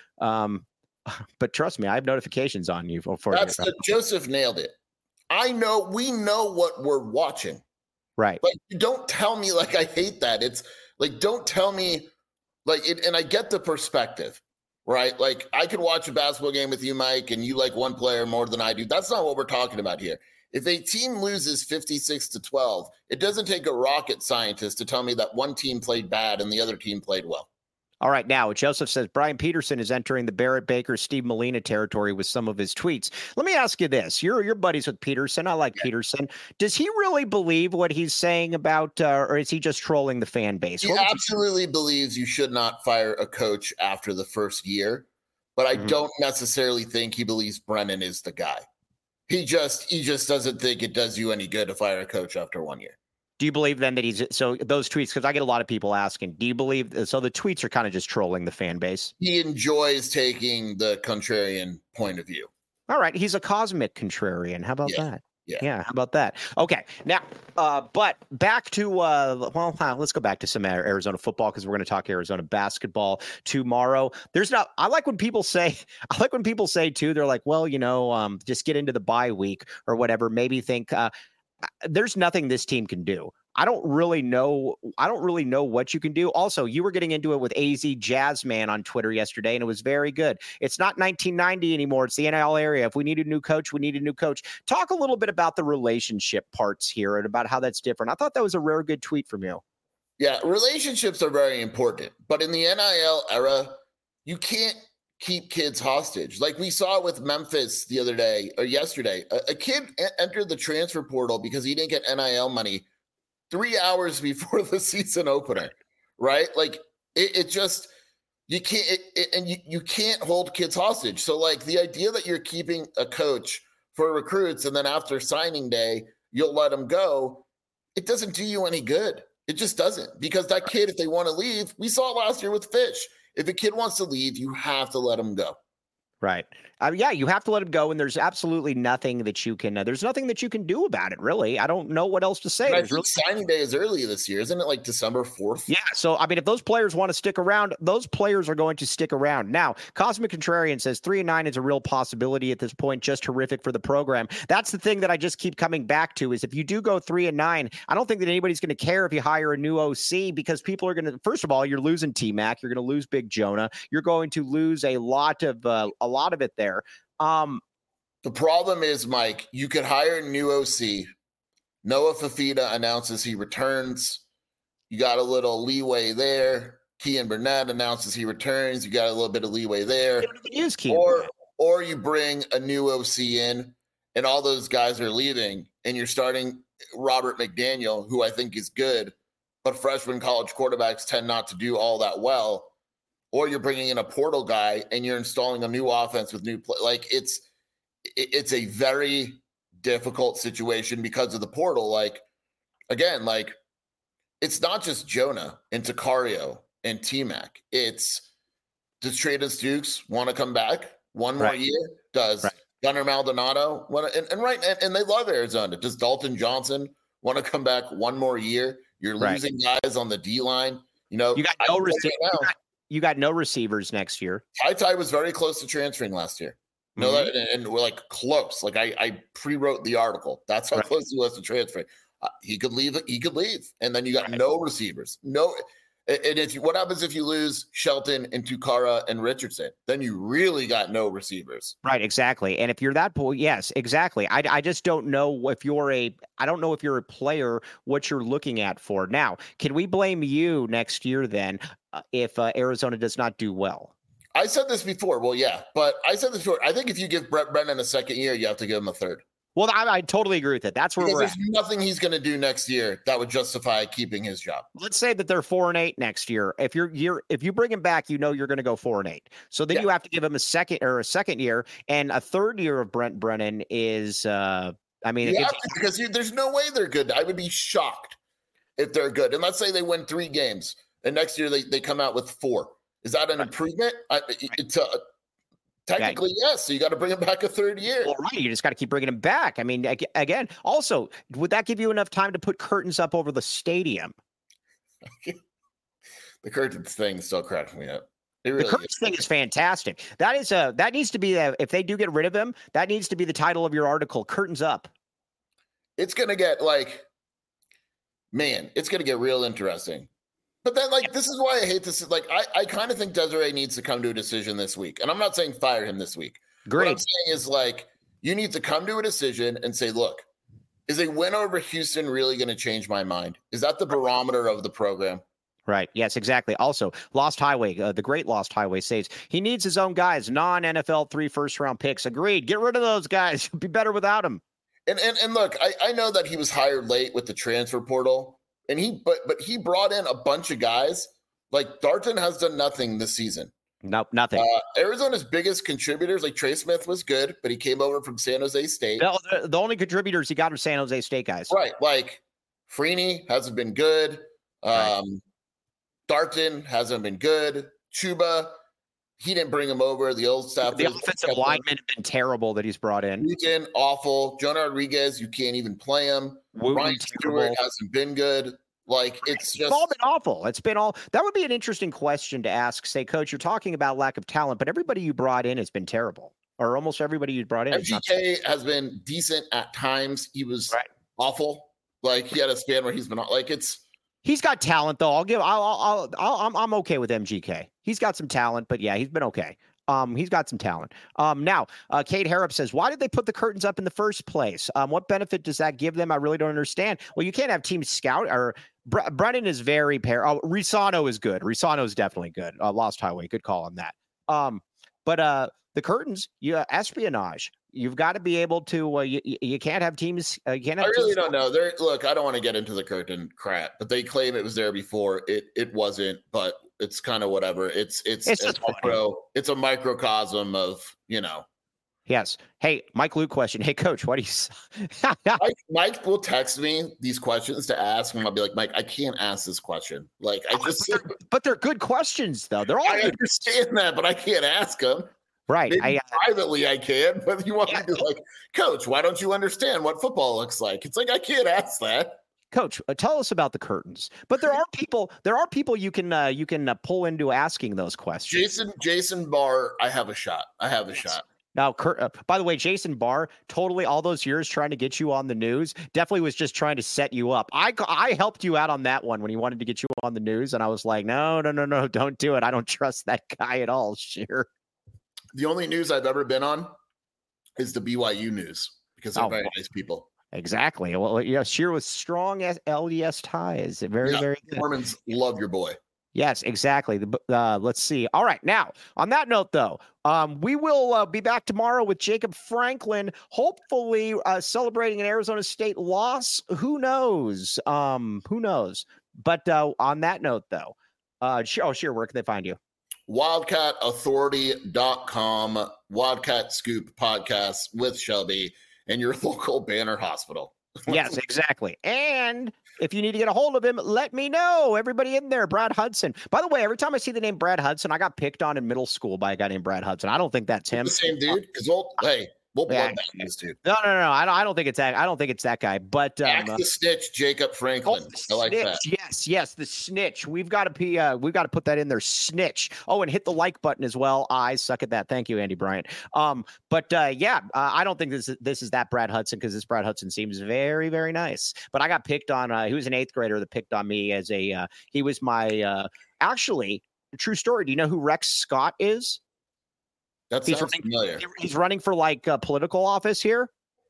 but trust me, I have notifications on you. Joseph nailed it. We know what we're watching. Right. But don't tell me like I hate that. It's like, don't tell me like it. And I get the perspective. Right? Like I could watch a basketball game with you, Mike, and you like one player more than I do. That's not what we're talking about here. If a team loses 56-12, it doesn't take a rocket scientist to tell me that one team played bad and the other team played well. All right. Now, Joseph says Brian Peterson is entering the Barrett Baker, Steve Molina territory with some of his tweets. Let me ask you this. You're buddies with Peterson. I like Peterson. Does he really believe what he's saying about, or is he just trolling the fan base? He absolutely believes you should not fire a coach after the first year, but I don't necessarily think he believes Brennan is the guy. He just doesn't think it does you any good to fire a coach after 1 year. Do you believe then that so those tweets, because I get a lot of people asking, do you believe, so the tweets are kind of just trolling the fan base? He enjoys taking the contrarian point of view. All right. He's a cosmic contrarian. How about that? Yeah. How about that? Okay. Now, but back to, let's go back to some Arizona football because we're going to talk Arizona basketball tomorrow. I like when people say too, they're like, well, just get into the bye week or whatever. Maybe think, there's nothing this team can do. I don't really know what you can do. Also, you were getting into it with AZ Jazzman on Twitter yesterday, and it was very good. It's not 1990 anymore. It's the NIL area. If we need a new coach, we need a new coach. Talk a little bit about the relationship parts here and about how that's different. I thought that was a rare good tweet from you. Yeah, relationships are very important. But in the NIL era, you can't keep kids hostage. Like we saw with Memphis the other day or yesterday, a kid entered the transfer portal because he didn't get NIL money 3 hours before the season opener, right? Like it just, you can't, you can't hold kids hostage. So like the idea that you're keeping a coach for recruits and then after signing day, you'll let them go. It doesn't do you any good. It just doesn't, because that kid, if they want to leave, we saw it last year with Fish. If a kid wants to leave, you have to let him go. Right. You have to let him go, and there's absolutely nothing that you can. There's nothing that you can do about it, really. I don't know what else to say. Signing day is early this year, isn't it? Like December 4th. Yeah. So I mean, if those players want to stick around, those players are going to stick around. Now, Cosmic Contrarian says 3-9 is a real possibility at this point. Just terrific for the program. That's the thing that I just keep coming back to is if you do go 3-9, I don't think that anybody's going to care if you hire a new OC because people are going to. First of all, you're losing T-Mac. You're going to lose Big Jonah. You're going to lose a lot of it there. The problem is, Mike, you could hire a new OC. Noah Fafita announces he returns. You got a little leeway there. Kean Burnett announces he returns. You got a little bit of leeway there. Or you bring a new OC in, and all those guys are leaving, and you're starting Robert McDaniel, who I think is good, but freshman college quarterbacks tend not to do all that well. Or you're bringing in a portal guy, and you're installing a new offense with new play. Like, it's a very difficult situation because of the portal. Like, again, like, it's not just Jonah and Sicario and T-Mac. It's, does Treydan Stukes want to come back one more year? Does Gunnar Maldonado want to? And they love Arizona. Does Dalton Johnson want to come back one more year? You're losing guys on the D-line. You know, you got no you got no receivers next year. Ty was very close to transferring last year. No, and we're like close. Like I pre-wrote the article. That's how close he was to transferring. He could leave. And then you got no receivers. No. And what happens if you lose Shelton and Tukara and Richardson? Then you really got no receivers. Right, exactly. And if you're that boy, yes, exactly. I just don't know if you're a player, what you're looking at for. Now, can we blame you next year then if Arizona does not do well? I said this before. Well, yeah, but I said this before. I think if you give Brett Brennan a second year, you have to give him a third. Well, I totally agree with it. That's where there's nothing he's going to do next year that would justify keeping his job. Let's say that they're 4-8 next year. If you bring him back, you know you're going to go 4-8. So then you have to give him a second year, and a third year of Brent Brennan is. Because there's no way they're good. I would be shocked if they're good. And let's say they win 3 games, and next year they come out with 4. Is that an improvement? Technically, yes. So you got to bring him back a third year. Well, right. You just got to keep bringing him back. I mean, again, also, would that give you enough time to put curtains up over the stadium? The curtains thing still cracks me up. The curtains thing is fantastic. That needs to be if they do get rid of him, that needs to be the title of your article. Curtains up. It's gonna get it's gonna get real interesting. But then, this is why I hate this. I kind of think Desiree needs to come to a decision this week. And I'm not saying fire him this week. Great. What I'm saying is, you need to come to a decision and say, look, is a win over Houston really going to change my mind? Is that the barometer of the program? Right. Yes, exactly. Also, Lost Highway, the great Lost Highway says he needs his own guys, non-NFL 3 first-round picks. Agreed. Get rid of those guys. Be better without him. And look, I know that he was hired late with the transfer portal. And he brought in a bunch of guys. Like Darton has done nothing this season. Nope, nothing. Arizona's biggest contributors, like Trey Smith, was good, but he came over from San Jose State. No, the only contributors he got are San Jose State guys. Right, like Freeney hasn't been good. Darton hasn't been good. Chuba, he didn't bring him over. The old staff. The offensive linemen have been terrible that he's brought in. Newton, awful. Jonah Rodriguez, you can't even play him. Ryan Stewart hasn't been good. It's all been awful. It's been all. That would be an interesting question to ask. Say, Coach, you're talking about lack of talent, but everybody you brought in has been terrible, or almost everybody you brought in. MGK has been decent at times. He was awful. He had a span where he's been He's got talent though. I'm okay with MGK. He's got some talent, but yeah, he's been okay. He's got some talent. Now, Kate Harrop says, why did they put the curtains up in the first place? What benefit does that give them? I really don't understand. Well, you can't have team scout or Brennan is very Risano is good. Risano is definitely good. Lost Highway. Good call on that. But the curtains, espionage. You've got to be able to. You can't have teams. You can't have. I really don't know. Look, I don't want to get into the curtain crap, but they claim it was there before. It wasn't, but it's kind of whatever. It's a microcosm of Yes. Hey, Mike Luke question. Hey, Coach, what do you? Mike will text me these questions to ask, and I'll be like, Mike, I can't ask this question. But they're good questions, though. They're all. I understand that, but I can't ask them. Right. Privately, I can, but you want me to Coach, why don't you understand what football looks like? It's I can't ask that. Coach, tell us about the curtains. But there are people you can pull into asking those questions. Jason Barr, I have a shot. shot. Now, by the way, Jason Barr, totally all those years trying to get you on the news, definitely was just trying to set you up. I helped you out on that one when he wanted to get you on the news, and I was like, no, don't do it. I don't trust that guy at all. Sure. The only news I've ever been on is the BYU news because they're very nice people. Exactly. Well, yeah, Scheer with strong LDS ties. Very, very good. Mormons love your boy. Yes, exactly. Let's see. All right. Now, on that note, though, we will be back tomorrow with Jacob Franklin, hopefully celebrating an Arizona State loss. Who knows? Who knows? But on that note, though, sure. Where can they find you? WildcatAuthority.com, Wildcat Scoop podcast with Shelby and your local Banner Hospital. Yes, exactly. And if you need to get a hold of him, let me know. Everybody in there, Brad Hudson. By the way, every time I see the name Brad Hudson, I got picked on in middle school by a guy named Brad Hudson. I don't think that's him. The same dude? Because we'll blood this dude. No. I don't think it's that. I don't think it's that guy. But Act the snitch, Jacob Franklin. I like that. Yes, the snitch. We've got to put that in there. Snitch. Oh, and hit the like button as well. I suck at that. Thank you, Andy Bryant. I don't think this is that Brad Hudson, because this Brad Hudson seems very, very nice. But I got picked on. He was an 8th grader that picked on me as a. He was my. Actually, true story. Do you know who Rex Scott is? That sounds familiar. He's running for political office here.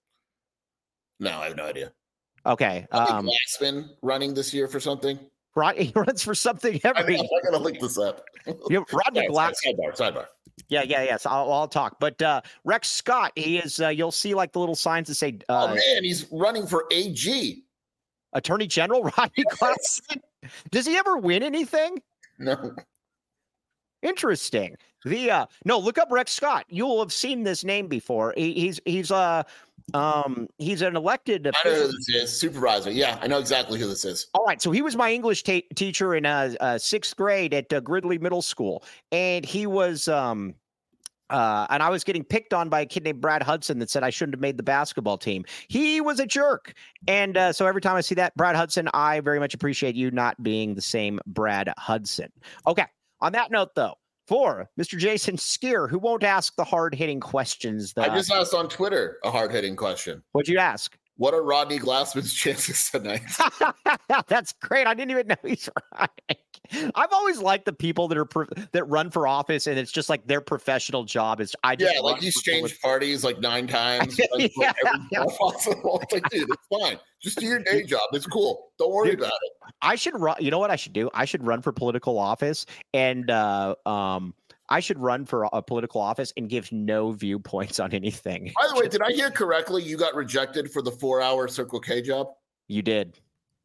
No, I have no idea. Okay. Glassman running this year for something. He runs for something every. I gotta look this up. Rodney Glass. Sidebar. Yeah. So I'll talk. But Rex Scott, he is. You'll see the little signs that say. Oh man, he's running for AG. Attorney General Rodney Glassman. Does he ever win anything? No. Interesting. Look up Rex Scott. You'll have seen this name before. He's an elected. I know who this is. Supervisor. Yeah, I know exactly who this is. All right. So he was my English teacher in 6th grade at Gridley Middle School, and he was and I was getting picked on by a kid named Brad Hudson that said I shouldn't have made the basketball team. He was a jerk. And so every time I see that, Brad Hudson, I very much appreciate you not being the same Brad Hudson. Okay. On that note, though, for Mr. Jason Scheer, who won't ask the hard-hitting questions. I just asked on Twitter a hard-hitting question. What'd you ask? What are Rodney Glassman's chances tonight? That's great. I didn't even know he's right. I've always liked the people that run for office, and it's just their professional job is. He's changed parties 9 times. Possible. It's dude, it's fine. Just do your day job. It's cool. Don't worry about it. I should run. You know what I should do? I should run for political office, and I should run for a political office and give no viewpoints on anything. By the way, did I hear correctly? You got rejected for the 4-hour Circle K job? You did.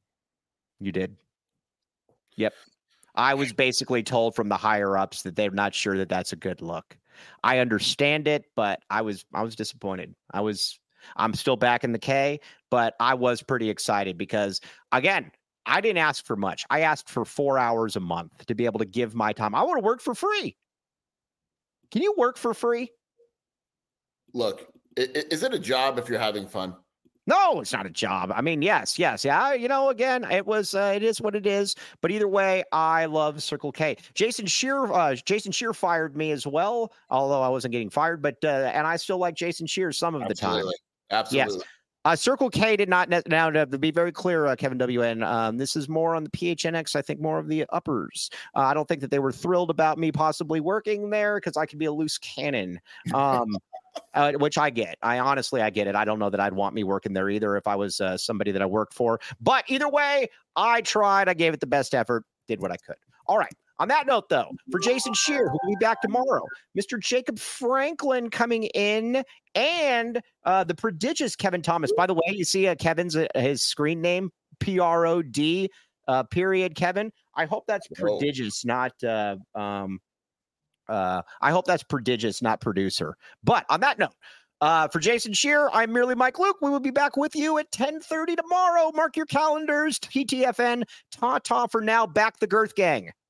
Yep. I was basically told from the higher ups that they're not sure that that's a good look. I understand it, but I was disappointed. I'm still back in the K, but I was pretty excited because, again, I didn't ask for much. I asked for 4 hours a month to be able to give my time. I want to work for free. Can you work for free? Look, is it a job if you're having fun? No, it's not a job. I mean, yes. Yeah. Again, it is what it is. But either way, I love Circle K. Jason Scheer fired me as well, although I wasn't getting fired. But and I still like Jason Scheer some of the time. Absolutely. Yes. Circle K did not now to be very clear, Kevin WN. This is more on the PHNX. I think more of the uppers. I don't think that they were thrilled about me possibly working there because I could be a loose cannon. Which I get. I get it. I don't know that I'd want me working there either if I was somebody that I worked for. But either way, I tried. I gave it the best effort. Did what I could. All right. On that note, though, for Jason Scheer, who will be back tomorrow, Mr. Jacob Franklin coming in, and the prodigious Kevin Thomas. By the way, you see Kevin's his screen name, PROD, period, Kevin. I hope that's prodigious, not I hope that's prodigious, not producer. But on that note, for Jason Scheer, I'm merely Mike Luke. We will be back with you at 10:30 tomorrow. Mark your calendars. TTFN. Ta-ta for now. Back the Girth Gang.